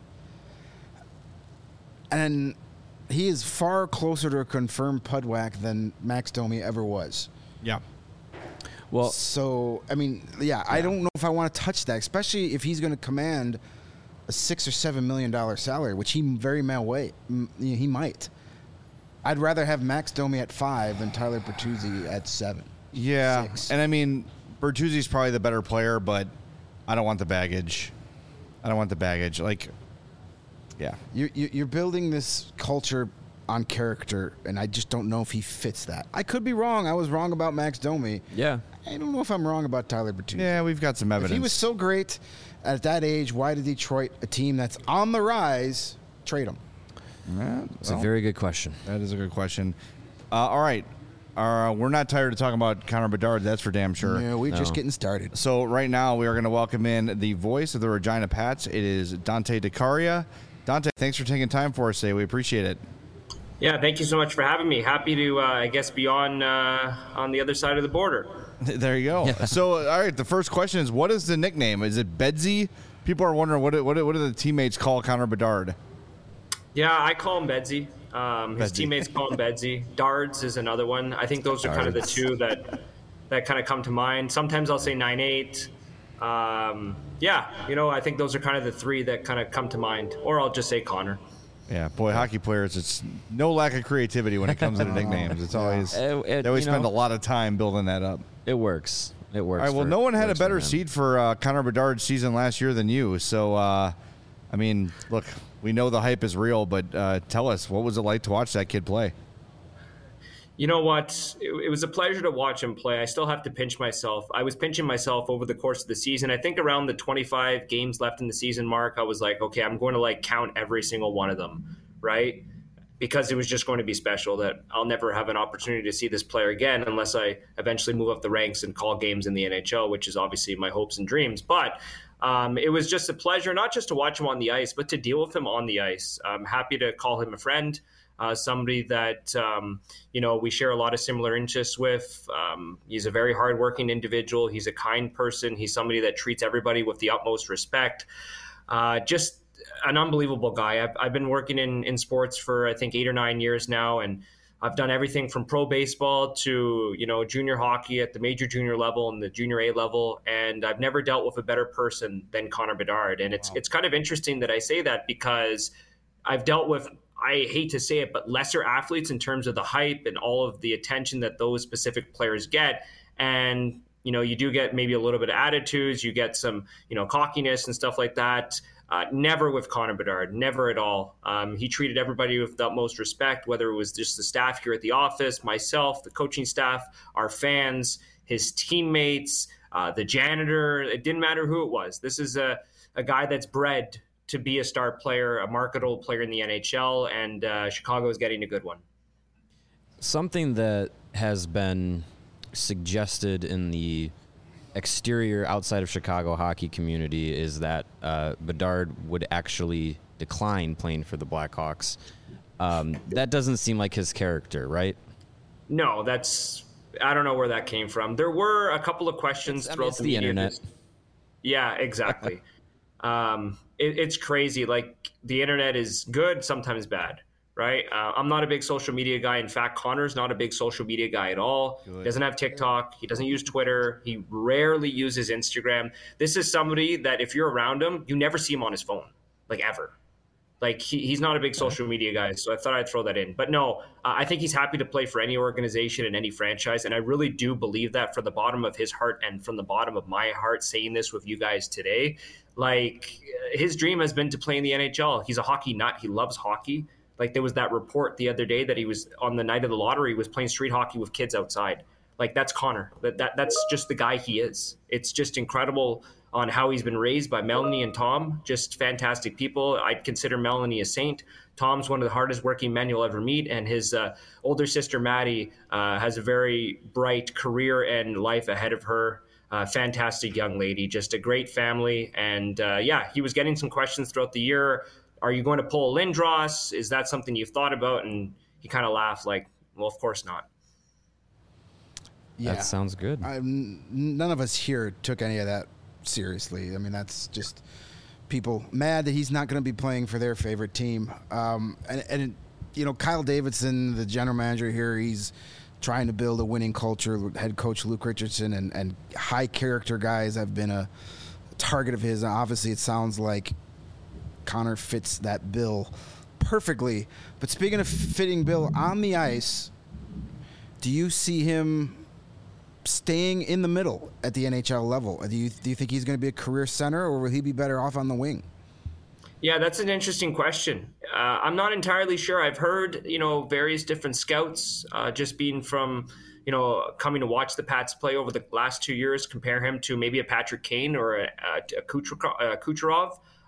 and he is far closer to a confirmed Pudwack than Max Domi ever was. yeah, Well, So I mean, yeah, I don't know if I want to touch that, especially if he's going to command a six or seven million dollar salary, which he very may way he might. I'd rather have Max Domi at five than Tyler Bertuzzi at seven. yeah. Six. And I mean, Bertuzzi's probably the better player, but I don't want the baggage. I don't want the baggage. Like, yeah, You, you, you're building this culture on character, and I just don't know if he fits that. I could be wrong. I was wrong about Max Domi. yeah. I don't know if I'm wrong about Tyler Bertuzzi. yeah. We've got some If evidence. he was so great at that age, why did Detroit, a team that's on the rise, trade him? Yeah, It's a well, very good question. that is a good question. Uh, all right. Uh, we're not tired of talking about Connor Bedard. That's for damn sure. Yeah, we're just No. getting started. So right now we are going to welcome in the voice of the Regina Pats. It is Dante DeCaria. Dante, thanks for taking time for us today. We appreciate it. Yeah, thank you so much for having me. Happy to, uh, I guess, be on uh, on the other side of the border. There you go. So, all right, the first question is, what is the nickname? Is it Bedsy? People are wondering, what, what, what do the teammates call Connor Bedard? Yeah, I call him Bedsy. Um, his Bedsy. teammates call him Bedsy. Dards is another one. I think those are kind of the two that that kind of come to mind. Sometimes I'll say nine eight. Um, yeah, you know, I think those are kind of the three that kind of come to mind. Or I'll just say Connor. Yeah, boy, hockey players, it's no lack of creativity when it comes to nicknames. It's always, It- it- they always you spend know- a lot of time building that up. It works. It works. All right, well, for- no one had a works for better him. seed for uh, Connor Bedard's season last year than you. So, uh, I mean, look, we know the hype is real, but uh, tell us, what was it like to watch that kid play? You know what? It, it was a pleasure to watch him play. I still have to pinch myself. I was pinching myself over the course of the season. I think around the twenty-five games left in the season mark, I was like, okay, I'm going to like count every single one of them, right? Because it was just going to be special that I'll never have an opportunity to see this player again unless I eventually move up the ranks and call games in the N H L, which is obviously my hopes and dreams. But um, it was just a pleasure, not just to watch him on the ice, but to deal with him on the ice. I'm happy to call him a friend. Uh, somebody that, um, you know, we share a lot of similar interests with. Um, he's a very hardworking individual. He's a kind person. He's somebody that treats everybody with the utmost respect. Uh, just an unbelievable guy. I've, I've been working in, in sports for, I think, eight or nine years now, and I've done everything from pro baseball to, you know, junior hockey at the major junior level and the junior A level, and I've never dealt with a better person than Connor Bedard. And it's wow. It's kind of interesting that I say that because I've dealt with, I hate to say it, but lesser athletes in terms of the hype and all of the attention that those specific players get. And, you know, you do get maybe a little bit of attitudes, you get some, you know, cockiness and stuff like that. Uh, never with Connor Bedard, never at all. Um, he treated everybody with the utmost respect, whether it was just the staff here at the office, myself, the coaching staff, our fans, his teammates, uh, the janitor. It didn't matter who it was. This is a, a guy that's bred to be a star player, a marketable player in the N H L, and uh, Chicago is getting a good one. Something that has been suggested in the exterior outside of Chicago hockey community is that uh, Bedard would actually decline playing for the Blackhawks. Um, that doesn't seem like his character, right? No, that's, I don't know where that came from. There were a couple of questions It's, I mean, throughout it's the, the media. internet. Yeah, exactly. um, it, it's crazy. Like, the internet is good, sometimes bad, right? Uh, I'm not a big social media guy. In fact, Connor's not a big social media guy at all. Good. He doesn't have TikTok. He doesn't use Twitter. He rarely uses Instagram. This is somebody that if you're around him, you never see him on his phone, like ever. Like, he, he's not a big social media guy, so I thought I'd throw that in. But no, uh, I think he's happy to play for any organization and any franchise, and I really do believe that from the bottom of his heart and from the bottom of my heart, saying this with you guys today. Like, his dream has been to play in the N H L. He's a hockey nut. He loves hockey. Like, there was that report the other day that he was, on the night of the lottery, was playing street hockey with kids outside. Like, that's Connor. That, that That's just the guy he is. It's just incredible on how he's been raised by Melanie and Tom. Just fantastic people. I'd consider Melanie a saint. Tom's one of the hardest working men you'll ever meet. And his uh, older sister, Maddie, uh, has a very bright career and life ahead of her. Uh, fantastic young lady, just a great family. And uh, yeah, he was getting some questions throughout the year. Are you going to pull Lindros? Is that something you've thought about? And he kind of laughed like, well, of course not. Yeah. That sounds good. I'm, none of us here took any of that seriously. I mean, that's just people mad that he's not going to be playing for their favorite team. Um, and, and, you know, Kyle Davidson, the general manager here, he's trying to build a winning culture. Head coach Luke Richardson and, and high character guys have been a target of his. And obviously, it sounds like Connor fits that bill perfectly. But speaking of fitting bill on the ice, do you see him staying in the middle at the N H L level? Do you, do you think he's going to be a career center, or will he be better off on the wing? Yeah, that's an interesting question. Uh, I'm not entirely sure. I've heard, you know, various different scouts, uh, just being from, you know, coming to watch the Pats play over the last two years, compare him to maybe a Patrick Kane or a, a, a Kucherov.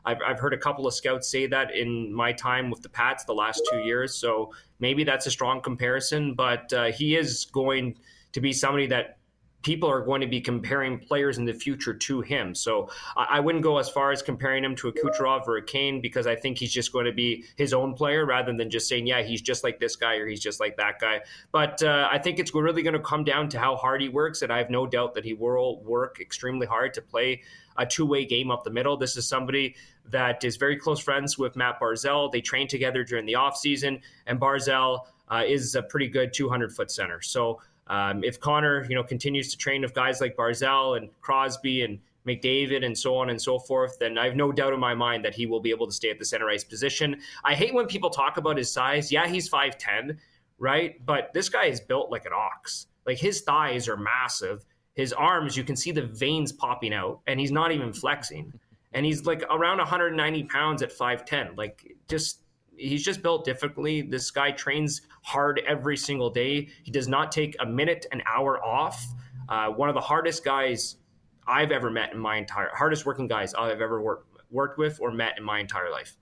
I've, I've heard a couple of scouts say that in my time with the Pats the last two years. So maybe that's a strong comparison, but uh, he is going to be somebody that people are going to be comparing players in the future to him. So I, I wouldn't go as far as comparing him to a Kucherov or a Kane, because I think he's just going to be his own player rather than just saying, yeah, he's just like this guy or he's just like that guy. But uh, I think it's really going to come down to how hard he works. And I have no doubt that he will work extremely hard to play a two-way game up the middle. This is somebody that is very close friends with Matt Barzal. They train together during the offseason, and Barzal uh, is a pretty good two hundred foot center. So Um, if Connor, you know, continues to train with guys like Barzal and Crosby and McDavid and so on and so forth, then I have no doubt in my mind that he will be able to stay at the center ice position. I hate when people talk about his size. Yeah, he's five ten, right? But this guy is built like an ox. Like, his thighs are massive. His arms, you can see the veins popping out, and he's not even flexing. And he's like around one hundred ninety pounds at five ten. Like, just... He's just built differently. This guy trains hard every single day. He does not take a minute, an hour off. Uh, one of the hardest guys I've ever met in my entire, hardest working guys I've ever worked worked with or met in my entire life.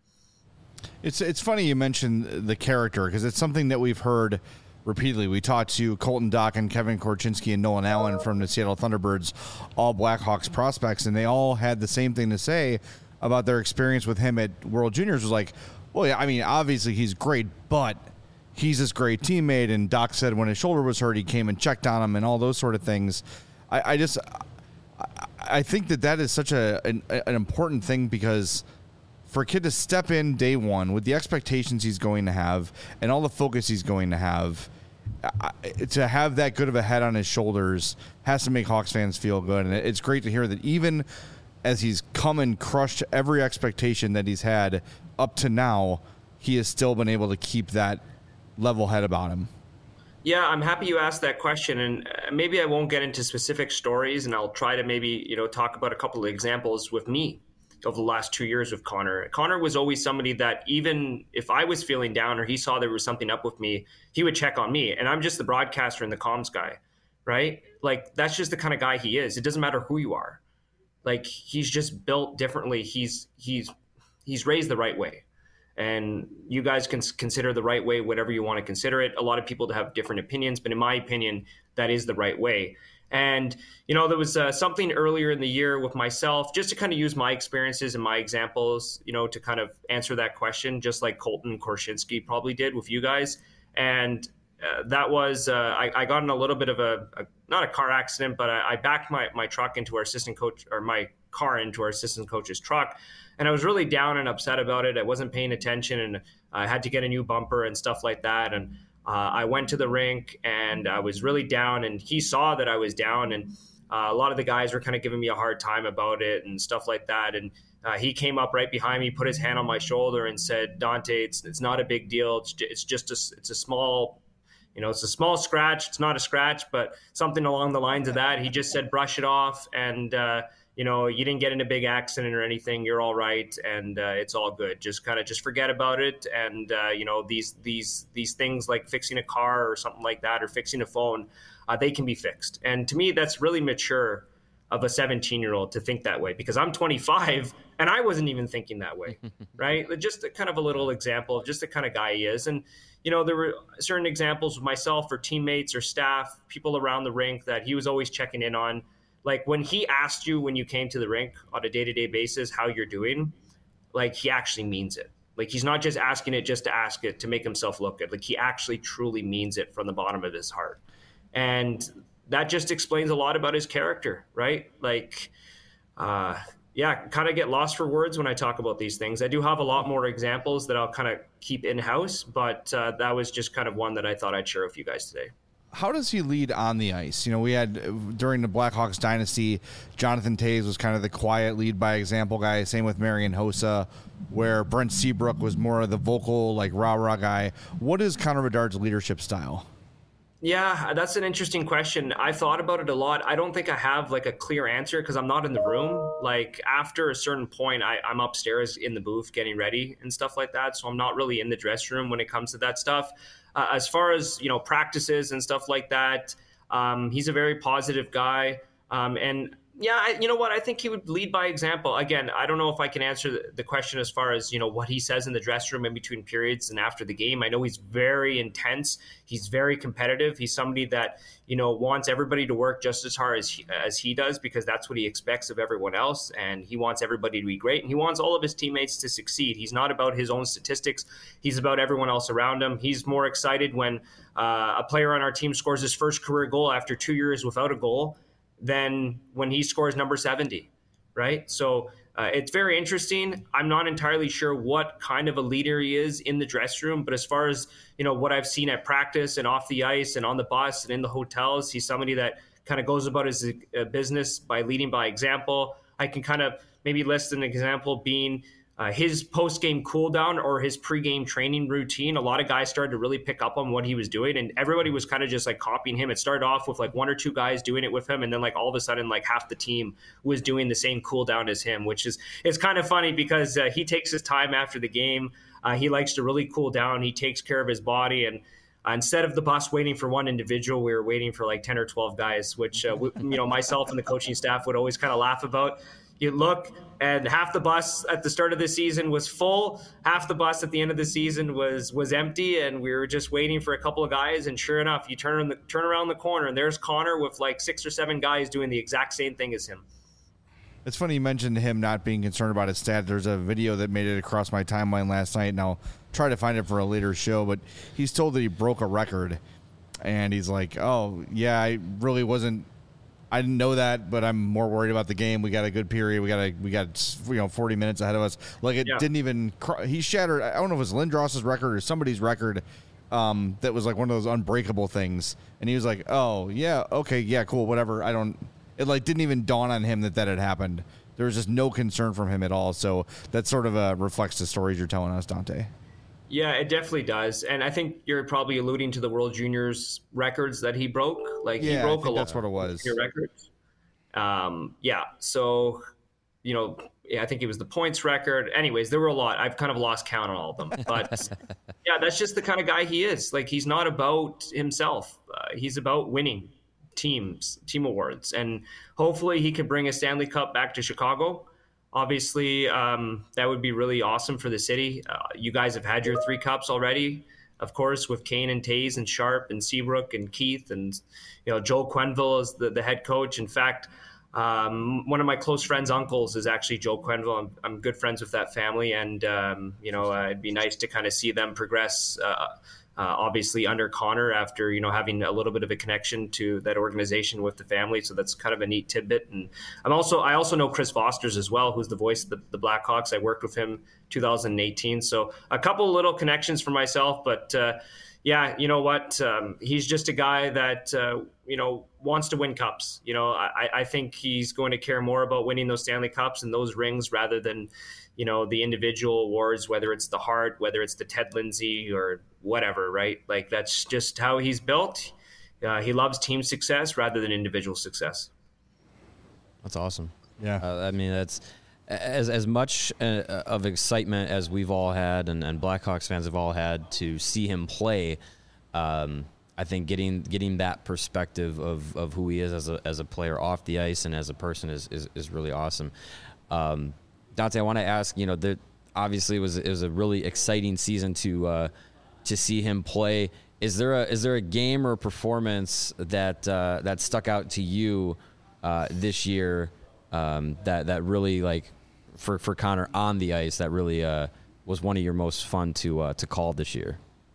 It's it's funny you mentioned the character, because it's something that we've heard repeatedly. We talked to Colton Dach and Kevin Korchinski and Nolan Allen from the Seattle Thunderbirds, all Blackhawks prospects, and they all had the same thing to say about their experience with him at World Juniors. Was like, well, yeah, I mean, obviously he's great, but he's this great teammate. And Doc said when his shoulder was hurt, he came and checked on him and all those sort of things. I, I just, I, I think that that is such a an, an important thing, because for a kid to step in day one with the expectations he's going to have and all the focus he's going to have, I, to have that good of a head on his shoulders has to make Hawks fans feel good. And it's great to hear that even as he's come and crushed every expectation that he's had up to now, he has still been able to keep that level head about him. Yeah, I'm happy you asked that question, and maybe I won't get into specific stories, and I'll try to maybe, you know, talk about a couple of examples with me over the last two years with Connor. Connor was always somebody that even if I was feeling down or he saw there was something up with me, he would check on me, and I'm just the broadcaster and the comms guy, right? Like, that's just the kind of guy he is. It doesn't matter who you are. Like, he's just built differently. He's he's he's raised the right way. And you guys can consider the right way whatever you want to consider it. A lot of people have different opinions, but in my opinion, that is the right way. And, you know, there was uh, something earlier in the year with myself, just to kind of use my experiences and my examples, you know, to kind of answer that question, just like Colton Korchinski probably did with you guys. And uh, that was, uh, I, I got in a little bit of a, a not a car accident, but I, I backed my, my truck into our assistant coach, or my car into our assistant coach's truck. And I was really down and upset about it. I wasn't paying attention, and I had to get a new bumper and stuff like that. And uh, I went to the rink, and I was really down, and he saw that I was down. And uh, a lot of the guys were kind of giving me a hard time about it and stuff like that. And uh, he came up right behind me, put his hand on my shoulder and said, "Dante, it's it's not a big deal. It's it's just a, it's a small, you know, it's a small scratch. It's not a scratch, but something along the lines of that." He just said, "Brush it off, and uh, you know, you didn't get in a big accident or anything. You're all right, and uh, it's all good. Just kind of just forget about it. And uh, you know, these these these things like fixing a car or something like that, or fixing a phone, uh, they can be fixed." And to me, that's really mature of a seventeen-year-old to think that way, because I'm twenty-five and I wasn't even thinking that way, right? Just a, kind of a little example of just the kind of guy he is. And you know, there were certain examples of myself or teammates or staff, people around the rink that he was always checking in on. Like, when he asked you when you came to the rink on a day-to-day basis how you're doing, like, he actually means it. Like, he's not just asking it just to ask it to make himself look good. Like, he actually truly means it from the bottom of his heart. And that just explains a lot about his character, right? Like, uh, yeah, kind of get lost for words when I talk about these things. I do have a lot more examples that I'll kind of keep in-house, but uh, that was just kind of one that I thought I'd share with you guys today. How does he lead on the ice? You know, we had during the Blackhawks dynasty, Jonathan Toews was kind of the quiet lead by example guy. Same with Marian Hossa, where Brent Seabrook was more of the vocal, like rah-rah guy. What is Connor Bedard's leadership style? Yeah, that's an interesting question. I thought about it a lot. I don't think I have like a clear answer because I'm not in the room. Like, after a certain point, I, I'm upstairs in the booth getting ready and stuff like that. So I'm not really in the dressing room when it comes to that stuff. Uh, as far as, you know, practices and stuff like that, um, he's a very positive guy. Um, and Yeah, I, you know what? I think he would lead by example. Again, I don't know if I can answer the, the question as far as, you know, what he says in the dressing room in between periods and after the game. I know he's very intense. He's very competitive. He's somebody that, you know, wants everybody to work just as hard as he, as he does, because that's what he expects of everyone else. And he wants everybody to be great. And he wants all of his teammates to succeed. He's not about his own statistics. He's about everyone else around him. He's more excited when uh, a player on our team scores his first career goal after two years without a goal than when he scores number seventy, right? So uh, it's very interesting. I'm not entirely sure what kind of a leader he is in the dressing room, but as far as, you know, what I've seen at practice and off the ice and on the bus and in the hotels, he's somebody that kind of goes about his uh, business by leading by example. I can kind of maybe list an example being Uh, his post-game cool-down or his pre-game training routine. A lot of guys started to really pick up on what he was doing, and everybody was kind of just like copying him. It started off with like one or two guys doing it with him, and then like all of a sudden like half the team was doing the same cool-down as him, which is it's kind of funny because uh, he takes his time after the game. Uh, he likes to really cool down. He takes care of his body, and uh, instead of the bus waiting for one individual, we were waiting for like ten or twelve guys, which uh, we, you know myself and the coaching staff would always kind of laugh about. You look, and half the bus at the start of the season was full. Half the bus at the end of the season was was empty, and we were just waiting for a couple of guys. And sure enough, you turn the turn around the corner, and there's Connor with like six or seven guys doing the exact same thing as him. It's funny you mentioned him not being concerned about his stats. There's a video that made it across my timeline last night, and I'll try to find it for a later show. But he's told that he broke a record, and he's like, "Oh yeah, I really wasn't." I didn't know that, but I'm more worried about the game. We got a good period. We got a, we got you know forty minutes ahead of us. Like it yeah. didn't even. He shattered. I don't know if it was Lindros's record or somebody's record. Um, that was like one of those unbreakable things. And he was like, "Oh yeah, okay, yeah, cool, whatever." I don't. It like didn't even dawn on him that that had happened. There was just no concern from him at all. So that sort of uh, reflects the stories you're telling us, Dante. Yeah, it definitely does. And I think you're probably alluding to the World Juniors records that he broke. Like yeah, he broke I think a that's lot what it was. of records. Um, yeah. So, you know, yeah, I think it was the points record. Anyways, there were a lot. I've kind of lost count on all of them. But yeah, that's just the kind of guy he is. Like he's not about himself. Uh, he's about winning teams, team awards. And hopefully he can bring a Stanley Cup back to Chicago. Obviously, um, that would be really awesome for the city. Uh, you guys have had your three cups already, of course, with Kane and Taze and Sharp and Seabrook and Keith and you know Joel Quenneville is the, the head coach. In fact, um, one of my close friends' uncles is actually Joel Quenneville. I'm, I'm good friends with that family, and um, you know uh, it'd be nice to kind of see them progress. Uh, Uh, obviously under Connor after, you know, having a little bit of a connection to that organization with the family. So that's kind of a neat tidbit. And I'm also, I also know Chris Foster's as well, who's the voice of the, the Blackhawks. I worked with him two thousand eighteen. So a couple of little connections for myself, but uh, yeah, you know what? Um, he's just a guy that, uh, you know, wants to win cups. You know, I, I think he's going to care more about winning those Stanley Cups and those rings rather than, you know, the individual awards, whether it's the Hart, whether it's the Ted Lindsay or whatever, right? Like that's just how he's built. Uh, he loves team success rather than individual success. That's awesome. Yeah. Uh, I mean, that's as as much uh, of excitement as we've all had and, and Blackhawks fans have all had to see him play. Um, I think getting getting that perspective of, of who he is as a as a player off the ice and as a person is is, is really awesome. Um, Dante, I want to ask, you know, that obviously it was it was a really exciting season to uh, to see him play. Is there a is there a game or a performance that uh, that stuck out to you uh, this year um, that that really like for, for Connor on the ice that really uh, was one of your most fun to uh, to call this year?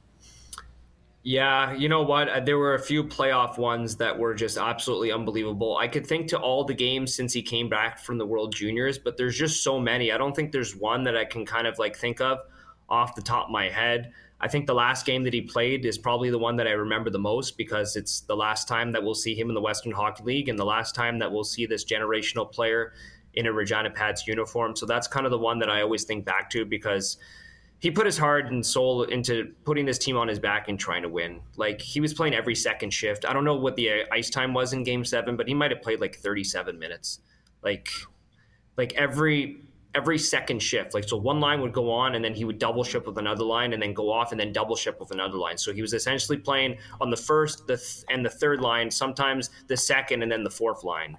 Yeah, you know what? There were a few playoff ones that were just absolutely unbelievable. I could think to all the games since he came back from the World Juniors, but there's just so many. I don't think there's one that I can kind of like think of off the top of my head. I think the last game that he played is probably the one that I remember the most because it's the last time that we'll see him in the Western Hockey League and the last time that we'll see this generational player in a Regina Pats uniform. So that's kind of the one that I always think back to because he put his heart and soul into putting this team on his back and trying to win. Like he was playing every second shift. I don't know what the ice time was in game seven, but he might've played like thirty-seven minutes. Like, like every, every second shift. Like, so one line would go on and then he would double shift with another line and then go off and then double shift with another line. So he was essentially playing on the first, the th- and the third line, sometimes the second and then the fourth line.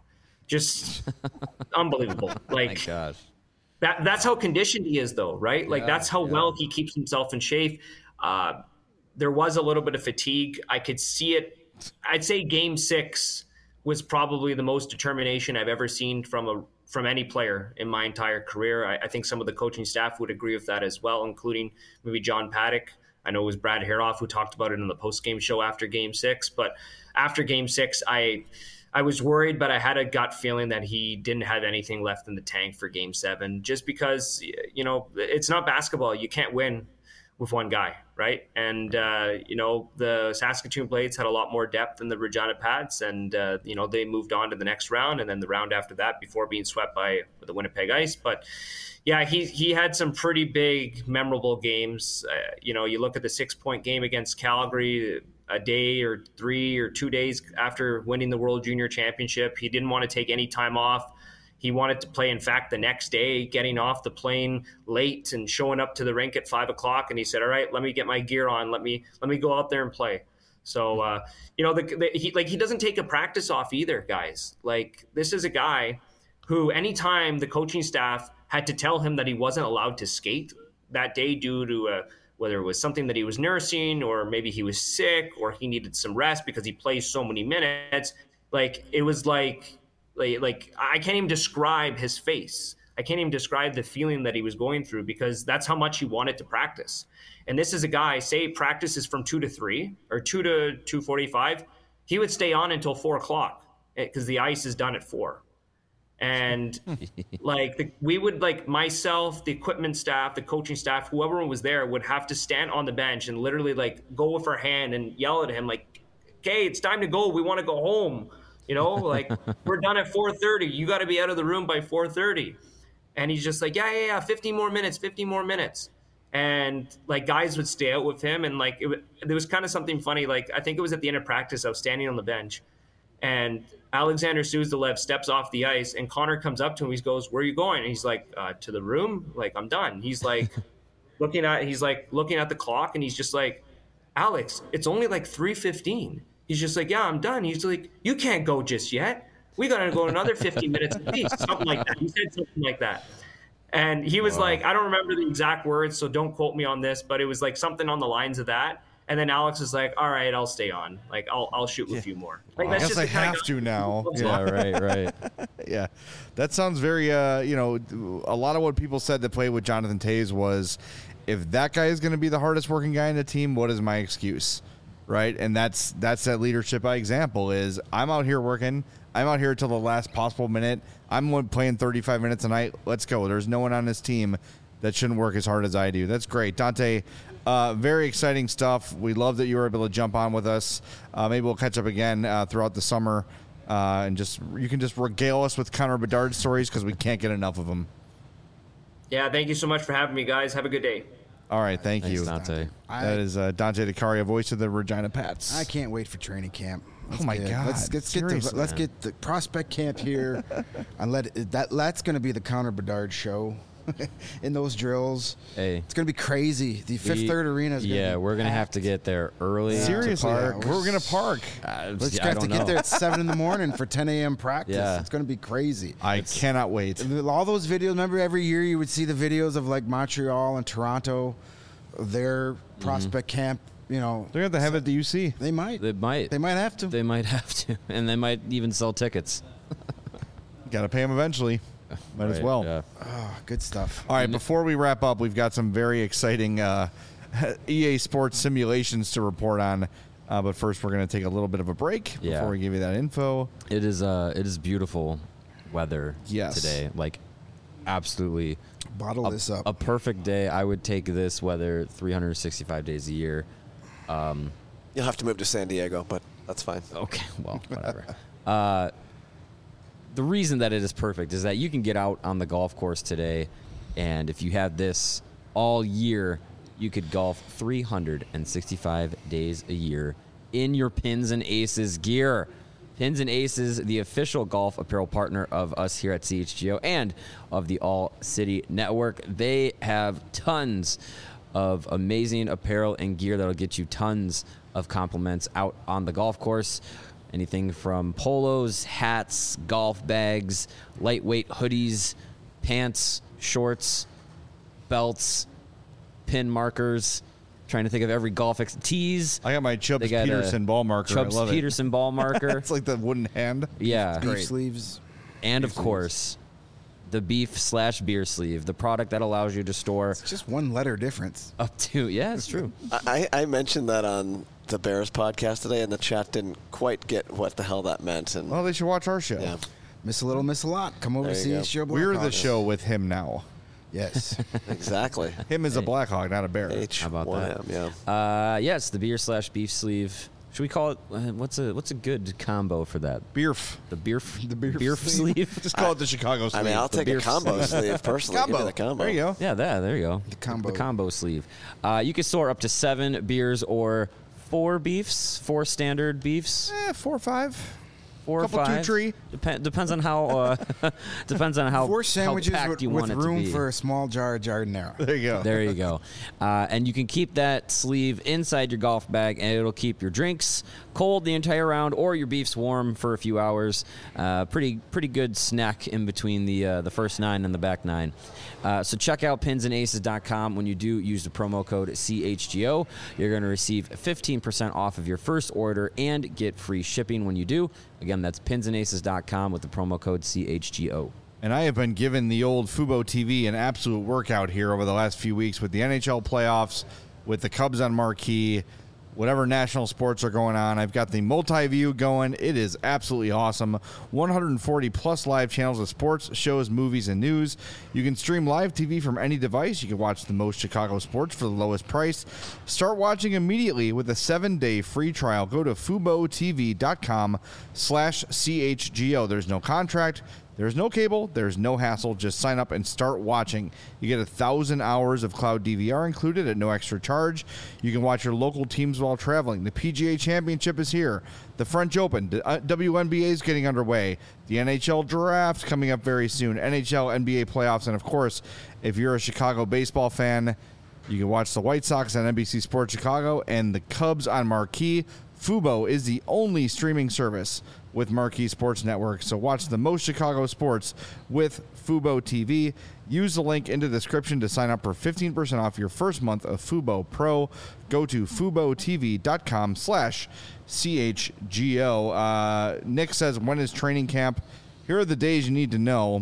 just unbelievable. Like, My gosh. that that's how conditioned he is, though, right? Like, Yeah, that's how yeah. well he keeps himself in shape. Uh, there was a little bit of fatigue. I could see it. I'd say game six was probably the most determination I've ever seen from a from any player in my entire career. I, I think some of the coaching staff would agree with that as well, including maybe John Paddock. I know it was Brad Haroff who talked about it in the post-game show after game six. But after game six, I I was worried, but I had a gut feeling that he didn't have anything left in the tank for game seven, just because, you know, it's not basketball. You can't win with one guy, right? And, uh, you know, the Saskatoon Blades had a lot more depth than the Regina Pats, and, uh, you know, they moved on to the next round and then the round after that before being swept by the Winnipeg Ice. But, yeah, he he had some pretty big, memorable games. Uh, you know, you look at the six-point game against Calgary a day or three or two days after winning the World Junior Championship. He didn't want to take any time off. He wanted to play, in fact, the next day, getting off the plane late and showing up to the rink at five o'clock. And he said, all right, let me get my gear on. Let me let me go out there and play. So, uh, you know, the, the, he, like he doesn't take a practice off either, guys. Like, this is a guy who anytime the coaching staff had to tell him that he wasn't allowed to skate that day due to a, whether it was something that he was nursing or maybe he was sick or he needed some rest because he plays so many minutes, like it was like – Like, like I can't even describe his face. I can't even describe the feeling that he was going through because that's how much he wanted to practice. And this is a guy, say practice is from two to three or two to two forty-five. He would stay on until four o'clock because the ice is done at four. And like the, we would like myself, the equipment staff, the coaching staff, whoever was there would have to stand on the bench and literally like go with our hand and yell at him like, okay, it's time to go. We want to go home. You know, like we're done at four thirty. You got to be out of the room by four thirty. And he's just like, yeah, yeah, yeah, fifteen more minutes, fifteen more minutes. And like guys would stay out with him. And like it, there was kind of something funny. Like I think it was at the end of practice. I was standing on the bench and Alexander Suzdalev steps off the ice and Connor comes up to him. He goes, where are you going? And he's like, uh, to the room. Like, I'm done. He's like looking at, he's like looking at the clock and he's just like, Alex, it's only like three fifteen. He's just like, yeah, I'm done. He's like, you can't go just yet. We got to go another fifteen minutes at least. Something like that. He said something like that. And he was wow. like, I don't remember the exact words, so don't quote me on this, but it was like something on the lines of that. And then Alex was like, all right, I'll stay on. Like, I'll I'll shoot with yeah. you more. Like, I that's guess just I have guy- to now. Yeah, right, right. Yeah. That sounds very, uh, you know, a lot of what people said that played with Jonathan Toews was, if that guy is going to be the hardest working guy in the team, what is my excuse? Right. And that's that's that leadership by example is I'm out here working. I'm out here till the last possible minute. I'm playing thirty-five minutes a night. Let's go. There's no one on this team that shouldn't work as hard as I do. That's great. Dante, uh, very exciting stuff. We love that you were able to jump on with us. Uh, maybe we'll catch up again uh, throughout the summer uh, and just you can just regale us with Connor Bedard stories because we can't get enough of them. Yeah. Thank you so much for having me, guys. Have a good day. All right, thank Thanks, you, Dante. I, that is uh, Dante DeCaria, voice of the Regina Pats. I can't wait for training camp. Let's oh my get, God! Let's, let's get the let's get the prospect camp here, and let it, that that's going to be the Connor Bedard show. In those drills, hey, it's going to be crazy. The Fifth we, Third Arena is going to yeah, be we're going to have to get there early. Seriously, to park. yeah, we're going to park. Uh, Let's I have don't to know. get there at seven in the morning for ten a.m. practice. Yeah. It's going to be crazy. I it's, cannot wait. All those videos. Remember, every year you would see the videos of like Montreal and Toronto, their mm-hmm. prospect camp. You know, they're going to have it at the U C. They might. They might. They might have to. They might have to, and they might even sell tickets. Got to pay them eventually. Might right, as well. Yeah. Oh, good stuff. All right, before we wrap up, we've got some very exciting uh, E A Sports simulations to report on. Uh, but first, we're going to take a little bit of a break yeah. before we give you that info. It is uh, it is beautiful weather yes. today. Like, absolutely. Bottle a, this up. A perfect day. I would take this weather three hundred sixty-five days a year. Um, You'll have to move to San Diego, but that's fine. Okay, well, whatever. uh, the reason that it is perfect is that you can get out on the golf course today, and if you had this all year, you could golf three hundred sixty-five days a year in your Pins and Aces gear. Pins and Aces, the official golf apparel partner of us here at C H G O and of the All City Network. They have tons of amazing apparel and gear that'll get you tons of compliments out on the golf course. Anything from polos, hats, golf bags, lightweight hoodies, pants, shorts, belts, pin markers. Trying to think of every golf ex- tees. I got my Chubbs They got a Peterson ball marker. Chubbs I love Peterson ball marker. It's like the wooden hand. Yeah. Beef sleeves. And of Beef sleeves. course, the beef slash beer sleeve, the product that allows you to store It's just one letter difference. up to, yeah, it's true. I, I mentioned that on the Bears podcast today, and the chat didn't quite get what the hell that meant. And Well, they should watch our show. yeah, Miss a little, miss a lot. Come over There to you see go. us. Show We're the Blackhawks. show with him now. Yes. exactly. Him is a Blackhawk, not a bear. H How about one that? M, yeah. Uh, yes, the beer slash beef sleeve. Should we call it? Uh, what's a what's a good combo for that? Beerf. The beer f- The beer beer sleeve. sleeve. Just call it the Chicago I sleeve. mean, I'll the take a beer combo sleeve personally. Give me combo. the combo. There you go. Yeah, there, there you go. The combo. The combo sleeve. Uh, you can store up to seven beers or four beefs, four standard beefs, Eh, four or five. four couple or five. two tree. Dep- depends on how. Uh, depends on how. Four sandwiches how packed with, you with want it to room be. for a small jar of jardinera. There you go. There you go. Uh, and you can keep that sleeve inside your golf bag, and it'll keep your drinks cold the entire round, or your beefs warm for a few hours. Uh, pretty pretty good snack in between the uh, the first nine and the back nine. Uh, so check out pins and aces dot com. When you do use the promo code C H G O, you're going to receive fifteen percent off of your first order and get free shipping when you do. Again, that's pins and aces dot com with the promo code C H G O. And I have been giving the old Fubo T V an absolute workout here over the last few weeks with the N H L playoffs, with the Cubs on marquee, whatever national sports are going on. I've got the multi-view going. It is absolutely awesome. one hundred forty plus live channels of sports, shows, movies, and news. You can stream live T V from any device. You can watch the most Chicago sports for the lowest price. Start watching immediately with a seven-day free trial. Go to FuboTV.com slash CHGO. There's no contract. There's no cable. There's no hassle. Just sign up and start watching. You get a thousand hours of cloud D V R included at no extra charge. You can watch your local teams while traveling. The P G A Championship is here. The French Open. The uh, W N B A is getting underway. The N H L Draft coming up very soon. N H L, N B A playoffs. And, of course, if you're a Chicago baseball fan, you can watch the White Sox on N B C Sports Chicago and the Cubs on Marquee. Fubo is the only streaming service with Marquee Sports Network. So watch the most Chicago sports with Fubo T V. Use the link in the description to sign up for fifteen percent off your first month of Fubo Pro. Go to FuboTV.com slash CHGO. Uh, Nick says, when is training camp? Here are the days you need to know.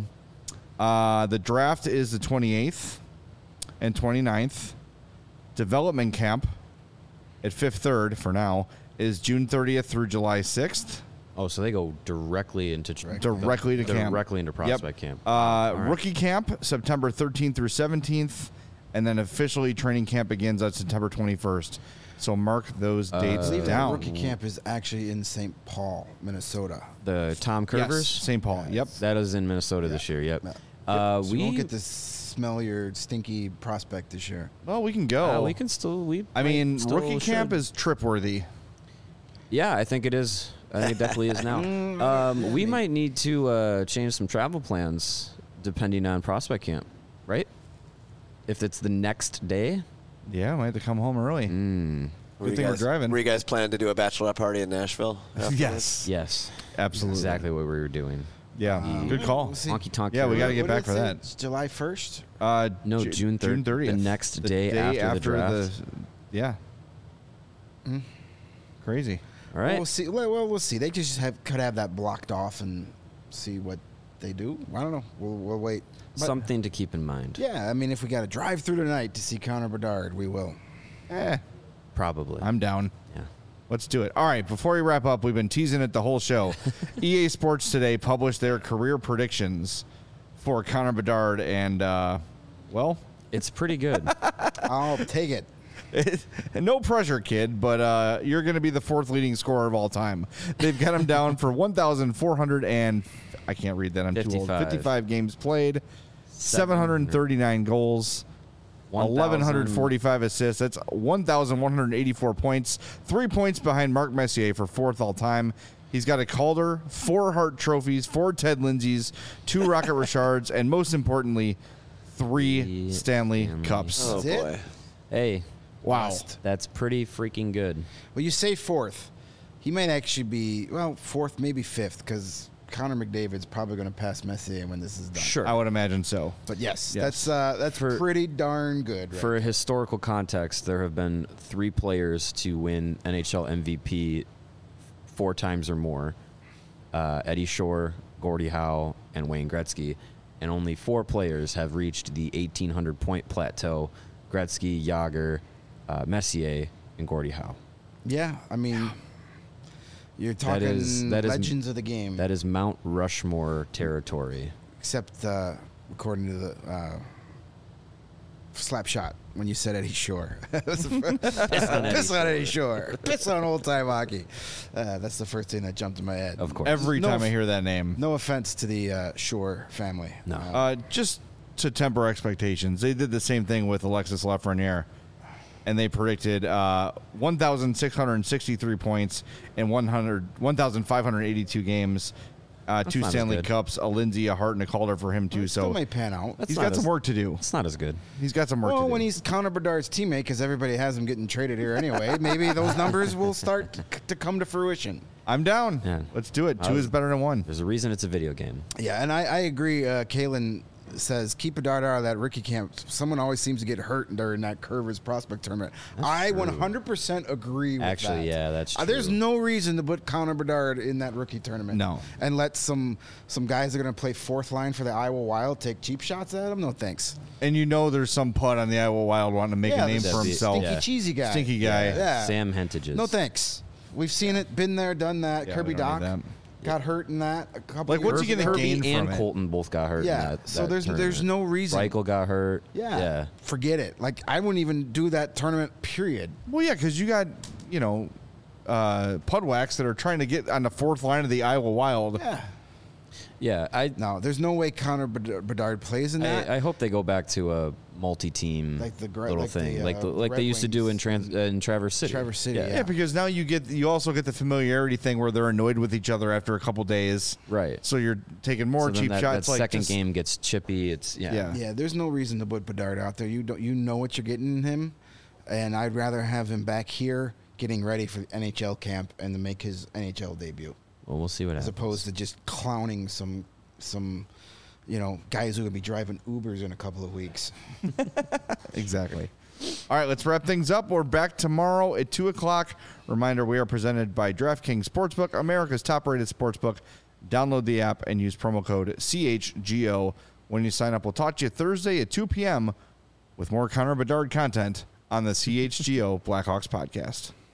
Uh, the draft is the twenty-eighth and twenty-ninth. Development camp at Fifth Third for now is June thirtieth through July sixth. Oh, so they go directly into Directly to camp. directly into prospect Yep. camp. Uh, All right. Rookie camp, September thirteenth through seventeenth, and then officially training camp begins on September twenty-first. So mark those dates I believe that down. rookie camp is actually in Saint Paul, Minnesota. The Tom Yes, Curvers. Saint Paul. Yep. That is in Minnesota this year. Yep. Yeah. Uh, So we we won't get to smell your stinky prospect this year. Well, we can go. uh, we can still. We. I might mean, still rookie camp should. is trip worthy. Yeah, I think it is. I think it definitely is now. Um, we might need to uh, change some travel plans depending on prospect camp, right? If it's the next day. Yeah, we have to come home early. Mm. Were Good you thing we're guys- driving. Were you guys planning to do a bachelorette party in Nashville? afterwards? Yes. Yes. Absolutely. Exactly what we were doing. Yeah. Um, Good call. we'll see. Honky tonk. Yeah, we Karaoke. gotta get What back did for it say? that. It's July first. Uh, No, Ju- June third- the thirtieth. next day after the draft. yeah. Hmm. Crazy. All Well, right. we'll see. Well, well, we'll see. They just have could have that blocked off and see what they do. I don't know. We'll, we'll wait. But, Something to keep in mind. Yeah, I mean, if we got to drive through tonight to see Connor Bedard, we will. Eh, Probably. I'm down. yeah. Let's do it. All right, before we wrap up, we've been teasing it the whole show. E A Sports today published their career predictions for Connor Bedard, and, uh, well, It's pretty good. I'll take it. no pressure, kid, but uh, you're going to be the fourth leading scorer of all time. They've got him down for one thousand four hundred and, I can't read that, I'm too old, fifty-five. fifty-five games played, seven hundred thirty-nine goals, eleven forty-five assists. That's one thousand one hundred eighty-four points. Three points behind Mark Messier for fourth all time. He's got a Calder, four Hart trophies, four Ted Lindsays, two Rocket Richards, and most importantly, three Three Stanley Stanley Cups. Oh That's it? boy. Hey, Wow. Last. that's pretty freaking good. Well, you say fourth. he might actually be, well, fourth, maybe fifth, because Connor McDavid's probably going to pass Messier when this is done. Sure. I would imagine so. But yes, Yes. that's uh, that's For- pretty darn good. Right? For historical context, there have been three players to win N H L M V P four times or more. Uh, Eddie Shore, Gordie Howe, and Wayne Gretzky. And only four players have reached the eighteen hundred point plateau. Gretzky, Yager, uh, Messier, and Gordie Howe. Yeah, I mean, you're talking is- that is- legends of the game. That is Mount Rushmore territory. Except uh, according to the uh, slap shot when you said Eddie Shore. Piss on Eddie Piss on Eddie Shore. Piss on old time hockey. Uh, that's the first thing that jumped in my head. Of course. Every No time I f- hear that name. No offense to the uh, Shore family. No. Uh, Uh, just to temper expectations, they did the same thing with Alexis Lafreniere, and they predicted uh, one thousand six hundred sixty-three points in one hundred, one thousand five hundred eighty-two games, uh, two not as Stanley good. Cups, a Lindsay, a Hart, and a Calder for him, too. it still So may pan out. That's he's not got as- some work to do. It's not as good. He's got some work Well, to do. when he's Connor Bedard's teammate, because everybody has him getting traded here anyway, maybe those numbers will start to, to come to fruition. I'm down. Yeah. Let's do it. I Two was- is better than one. There's a reason it's a video game. Yeah, and I, I agree. Uh, Kalen says keep Bedard out of that rookie camp. Someone always seems to get hurt during that Curvers prospect tournament. I true. one hundred percent agree with Actually, that. yeah, that's Uh, there's true. no reason to put Connor Bedard in that rookie tournament. No. And let some some guys that are going to play fourth line for the Iowa Wild take cheap shots at him. No thanks. And you know there's some putt on the Iowa Wild wanting to make yeah, a name the for That'd be- himself. Stinky Yeah. cheesy guy. Stinky guy. Yeah. Sam Hentages. No thanks. We've seen it, been there, done that. Yeah, Kirby we don't Doc need that. got hurt in that a couple Like, what's years he gonna ago. gain Kirby from and it? Colton both got hurt. Yeah, in that, so that there's there's tournament. no reason. Reichel got hurt. Yeah. yeah. Forget it. Like I wouldn't even do that tournament. Period. Well, yeah, because you got, you know, uh, Pudwax that are trying to get on the fourth line of the Iowa Wild. Yeah. Yeah, I, No, there's no way Connor Bed- Bedard plays in that. I I hope they go back to a multi-team Like the Gra- little like the, thing, uh, like the, like Red they used to do in Wings. Trans, uh, in Traverse City. Traverse City, Yeah, Yeah. because now you get you also get the familiarity thing where they're annoyed with each other after a couple days. Right. So you're taking more So then cheap that, shots. That like second just- game gets chippy. It's yeah. Yeah. yeah, there's no reason to put Bedard out there. You don't. You know what you're getting in him, and I'd rather have him back here getting ready for the N H L camp and to make his N H L debut, Well, we'll see what as happens. opposed to just clowning some some, you know, guys who are gonna be driving Ubers in a couple of weeks. Exactly. All right, let's wrap things up. We're back tomorrow at two o'clock. Reminder, we are presented by DraftKings Sportsbook, America's top-rated sportsbook. Download the app and use promo code C H G O when you sign up. We'll talk to you Thursday at two p.m. with more Connor Bedard content on the C H G O Blackhawks podcast.